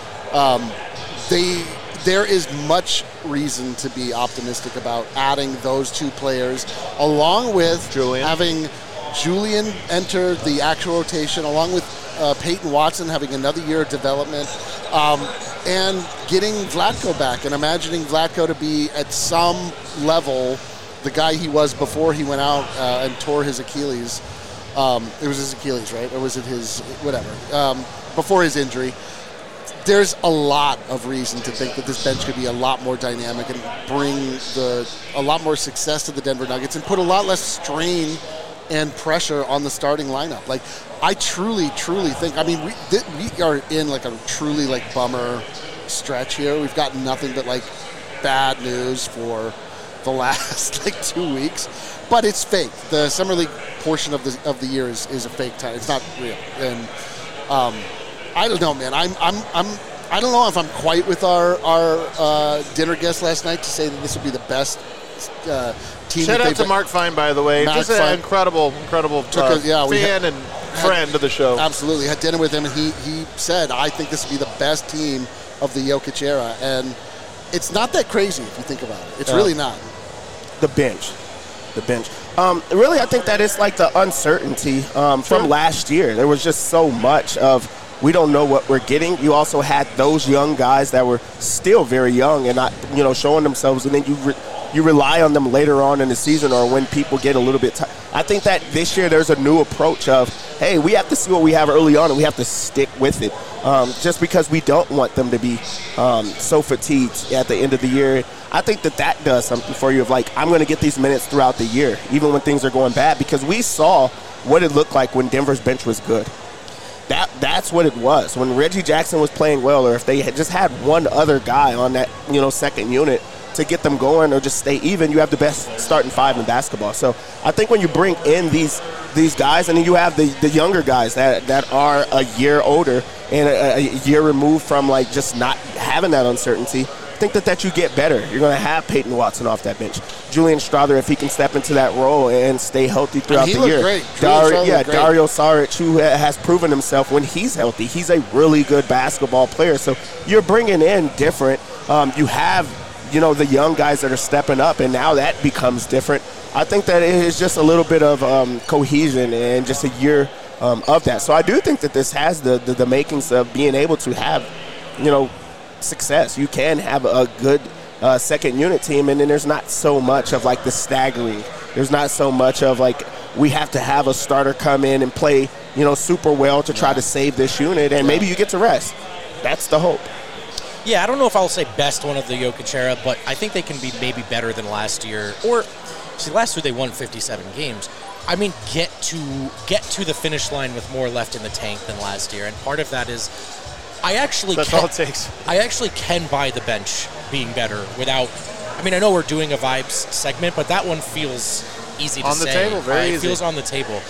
Um, they there is much reason to be optimistic about adding those two players, along with Julian. having Julian enter the actual rotation, along with uh, Peyton Watson having another year of development, um, and getting Vlatko back, and imagining Vlatko to be at some level the guy he was before he went out uh, and tore his Achilles. Um, it was his Achilles, right? Or was it his, whatever, um, before his injury. There's a lot of reason to think that this bench could be a lot more dynamic and bring the a lot more success to the Denver Nuggets and put a lot less strain and pressure on the starting lineup. Like, I truly, truly think, I mean, we, th- we are in like a truly like bummer stretch here. We've got nothing but like bad news for the last like two weeks. But it's fake. The summer league portion of the of the year is, is a fake time. It's not real. And um, I don't know, man. I'm I'm I'm I don't know if I'm quite with our our uh, dinner guest last night to say that this would be the best uh, team. Shout that out they've to Mark Fine, by the way. Mark Just an Fine. incredible, incredible Took uh, us- yeah, we fan had- and friend of the show. Absolutely. Had dinner with him, and he, he said, I think this would be the best team of the Jokic era. And it's not that crazy if you think about it. It's Yeah. really not. The bench. The bench. Um, really, I think that it's like the uncertainty um, from last year. There was just so much of we don't know what we're getting. You also had those young guys that were still very young and not, you know, showing themselves, and then you re- you rely on them later on in the season or when people get a little bit tired. I think that this year there's a new approach of, hey, we have to see what we have early on and we have to stick with it. Um, just because we don't want them to be um, so fatigued at the end of the year. I think that that does something for you of like, I'm going to get these minutes throughout the year, even when things are going bad, because we saw what it looked like when Denver's bench was good. That That's what it was. When Reggie Jackson was playing well, or if they had just had one other guy on that, you know, second unit to get them going or just stay even, you have the best starting five in basketball. So I think when you bring in these these guys, and then you have the, the younger guys that, that are a year older and a, a year removed from like just not having that uncertainty, I think that, that you get better. You're going to have Peyton Watson off that bench. Julian Strawther, if he can step into that role and stay healthy throughout he the looked year. great. Dar- Julian Strawther yeah, looked great. Dario Saric, who ha- has proven himself when he's healthy. He's a really good basketball player. So you're bringing in different. Um, you have, you know, the young guys that are stepping up, and now that becomes different. I think that it is just a little bit of um, cohesion and just a year um, of that. So I do think that this has the, the, the makings of being able to have, you know, success. You can have a good uh, second unit team, and then there's not so much of like the staggering. There's not so much of like we have to have a starter come in and play, you know, super well to try to save this unit, and maybe you get to rest. That's the hope. Yeah, I don't know if I'll say best one of the Jokic era, but I think they can be maybe better than last year. Or, see, last year they won fifty-seven games. I mean, get to get to the finish line with more left in the tank than last year, and part of that is I actually That's can, all it takes. I actually can buy the bench being better without. I mean, I know we're doing a vibes segment, but that one feels easy to On the say. table, very Uh, it easy. feels on the table.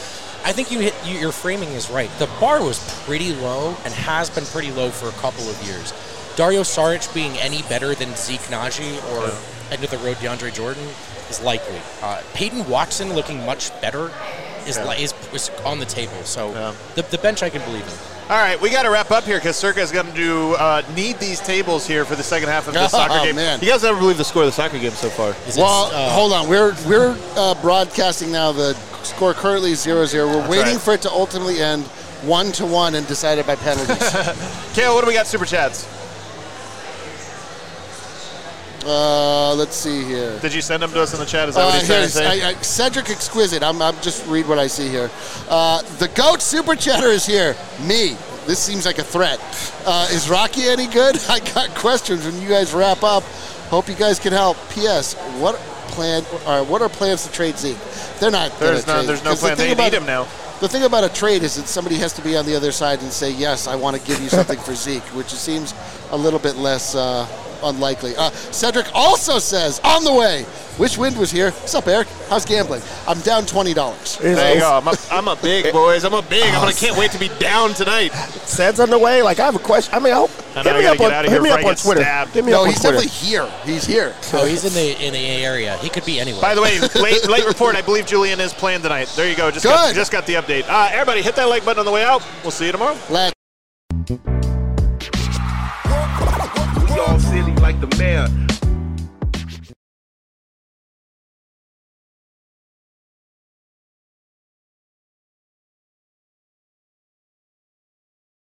I think you hit you, your framing is right. The bar was pretty low and has been pretty low for a couple of years. Dario Saric being any better than Zeke Naji or yeah. end of the road DeAndre Jordan is likely. Uh, Peyton Watson looking much better is yeah. li- is, is on the table. So yeah. the, the bench I can believe in. All right, we got to wrap up here because Circa is going to uh, need these tables here for the second half of this oh, soccer game. Man. You guys ever believe the score of the soccer game so far? Is well, uh, hold on. We're we're uh, broadcasting now. The score currently is zero zero. We're That's waiting right. for it to ultimately end one to one and decided by penalties. Kale, what do we got? Super chats. uh, let's see here. Did you send them to us in the chat? Is that Uh, what he's trying to here's, say? I, I, Cedric Exquisite. I'm, I'm just read what I see here. Uh, the GOAT Super Chatter is here. Me. This seems like a threat. Uh, is Rocky any good? I got questions when you guys wrap up. Hope you guys can help. P S. What plan? Or what are plans to trade Zeke? They're not. There's gonna no, trade. there's no 'Cause the plan. thing They about- need him now. The thing about a trade is that somebody has to be on the other side and say, yes, I want to give you something for Zeke, which seems a little bit less uh, unlikely. Uh, Cedric also says, on the way. Wish Wind was here. What's up, Eric? How's gambling? I'm down twenty dollars. There you go. I'm a, I'm a big, boys. I'm a big. I'm gonna, can't wait to be down tonight. Sed's on the way. Like, I have a question. I mean, I hope. I know, hit I me gotta up get on, out of hit here me before up I on get Twitter. stabbed. Hit me No, up on he's Twitter. definitely here. He's here. Oh, he's in the in the area. He could be anywhere. By the way, late late report. I believe Julian is playing tonight. There you go. Just got, Good. just got the update. Uh, everybody, hit that like button on the way out. We'll see you tomorrow. Let We all silly like the mayor.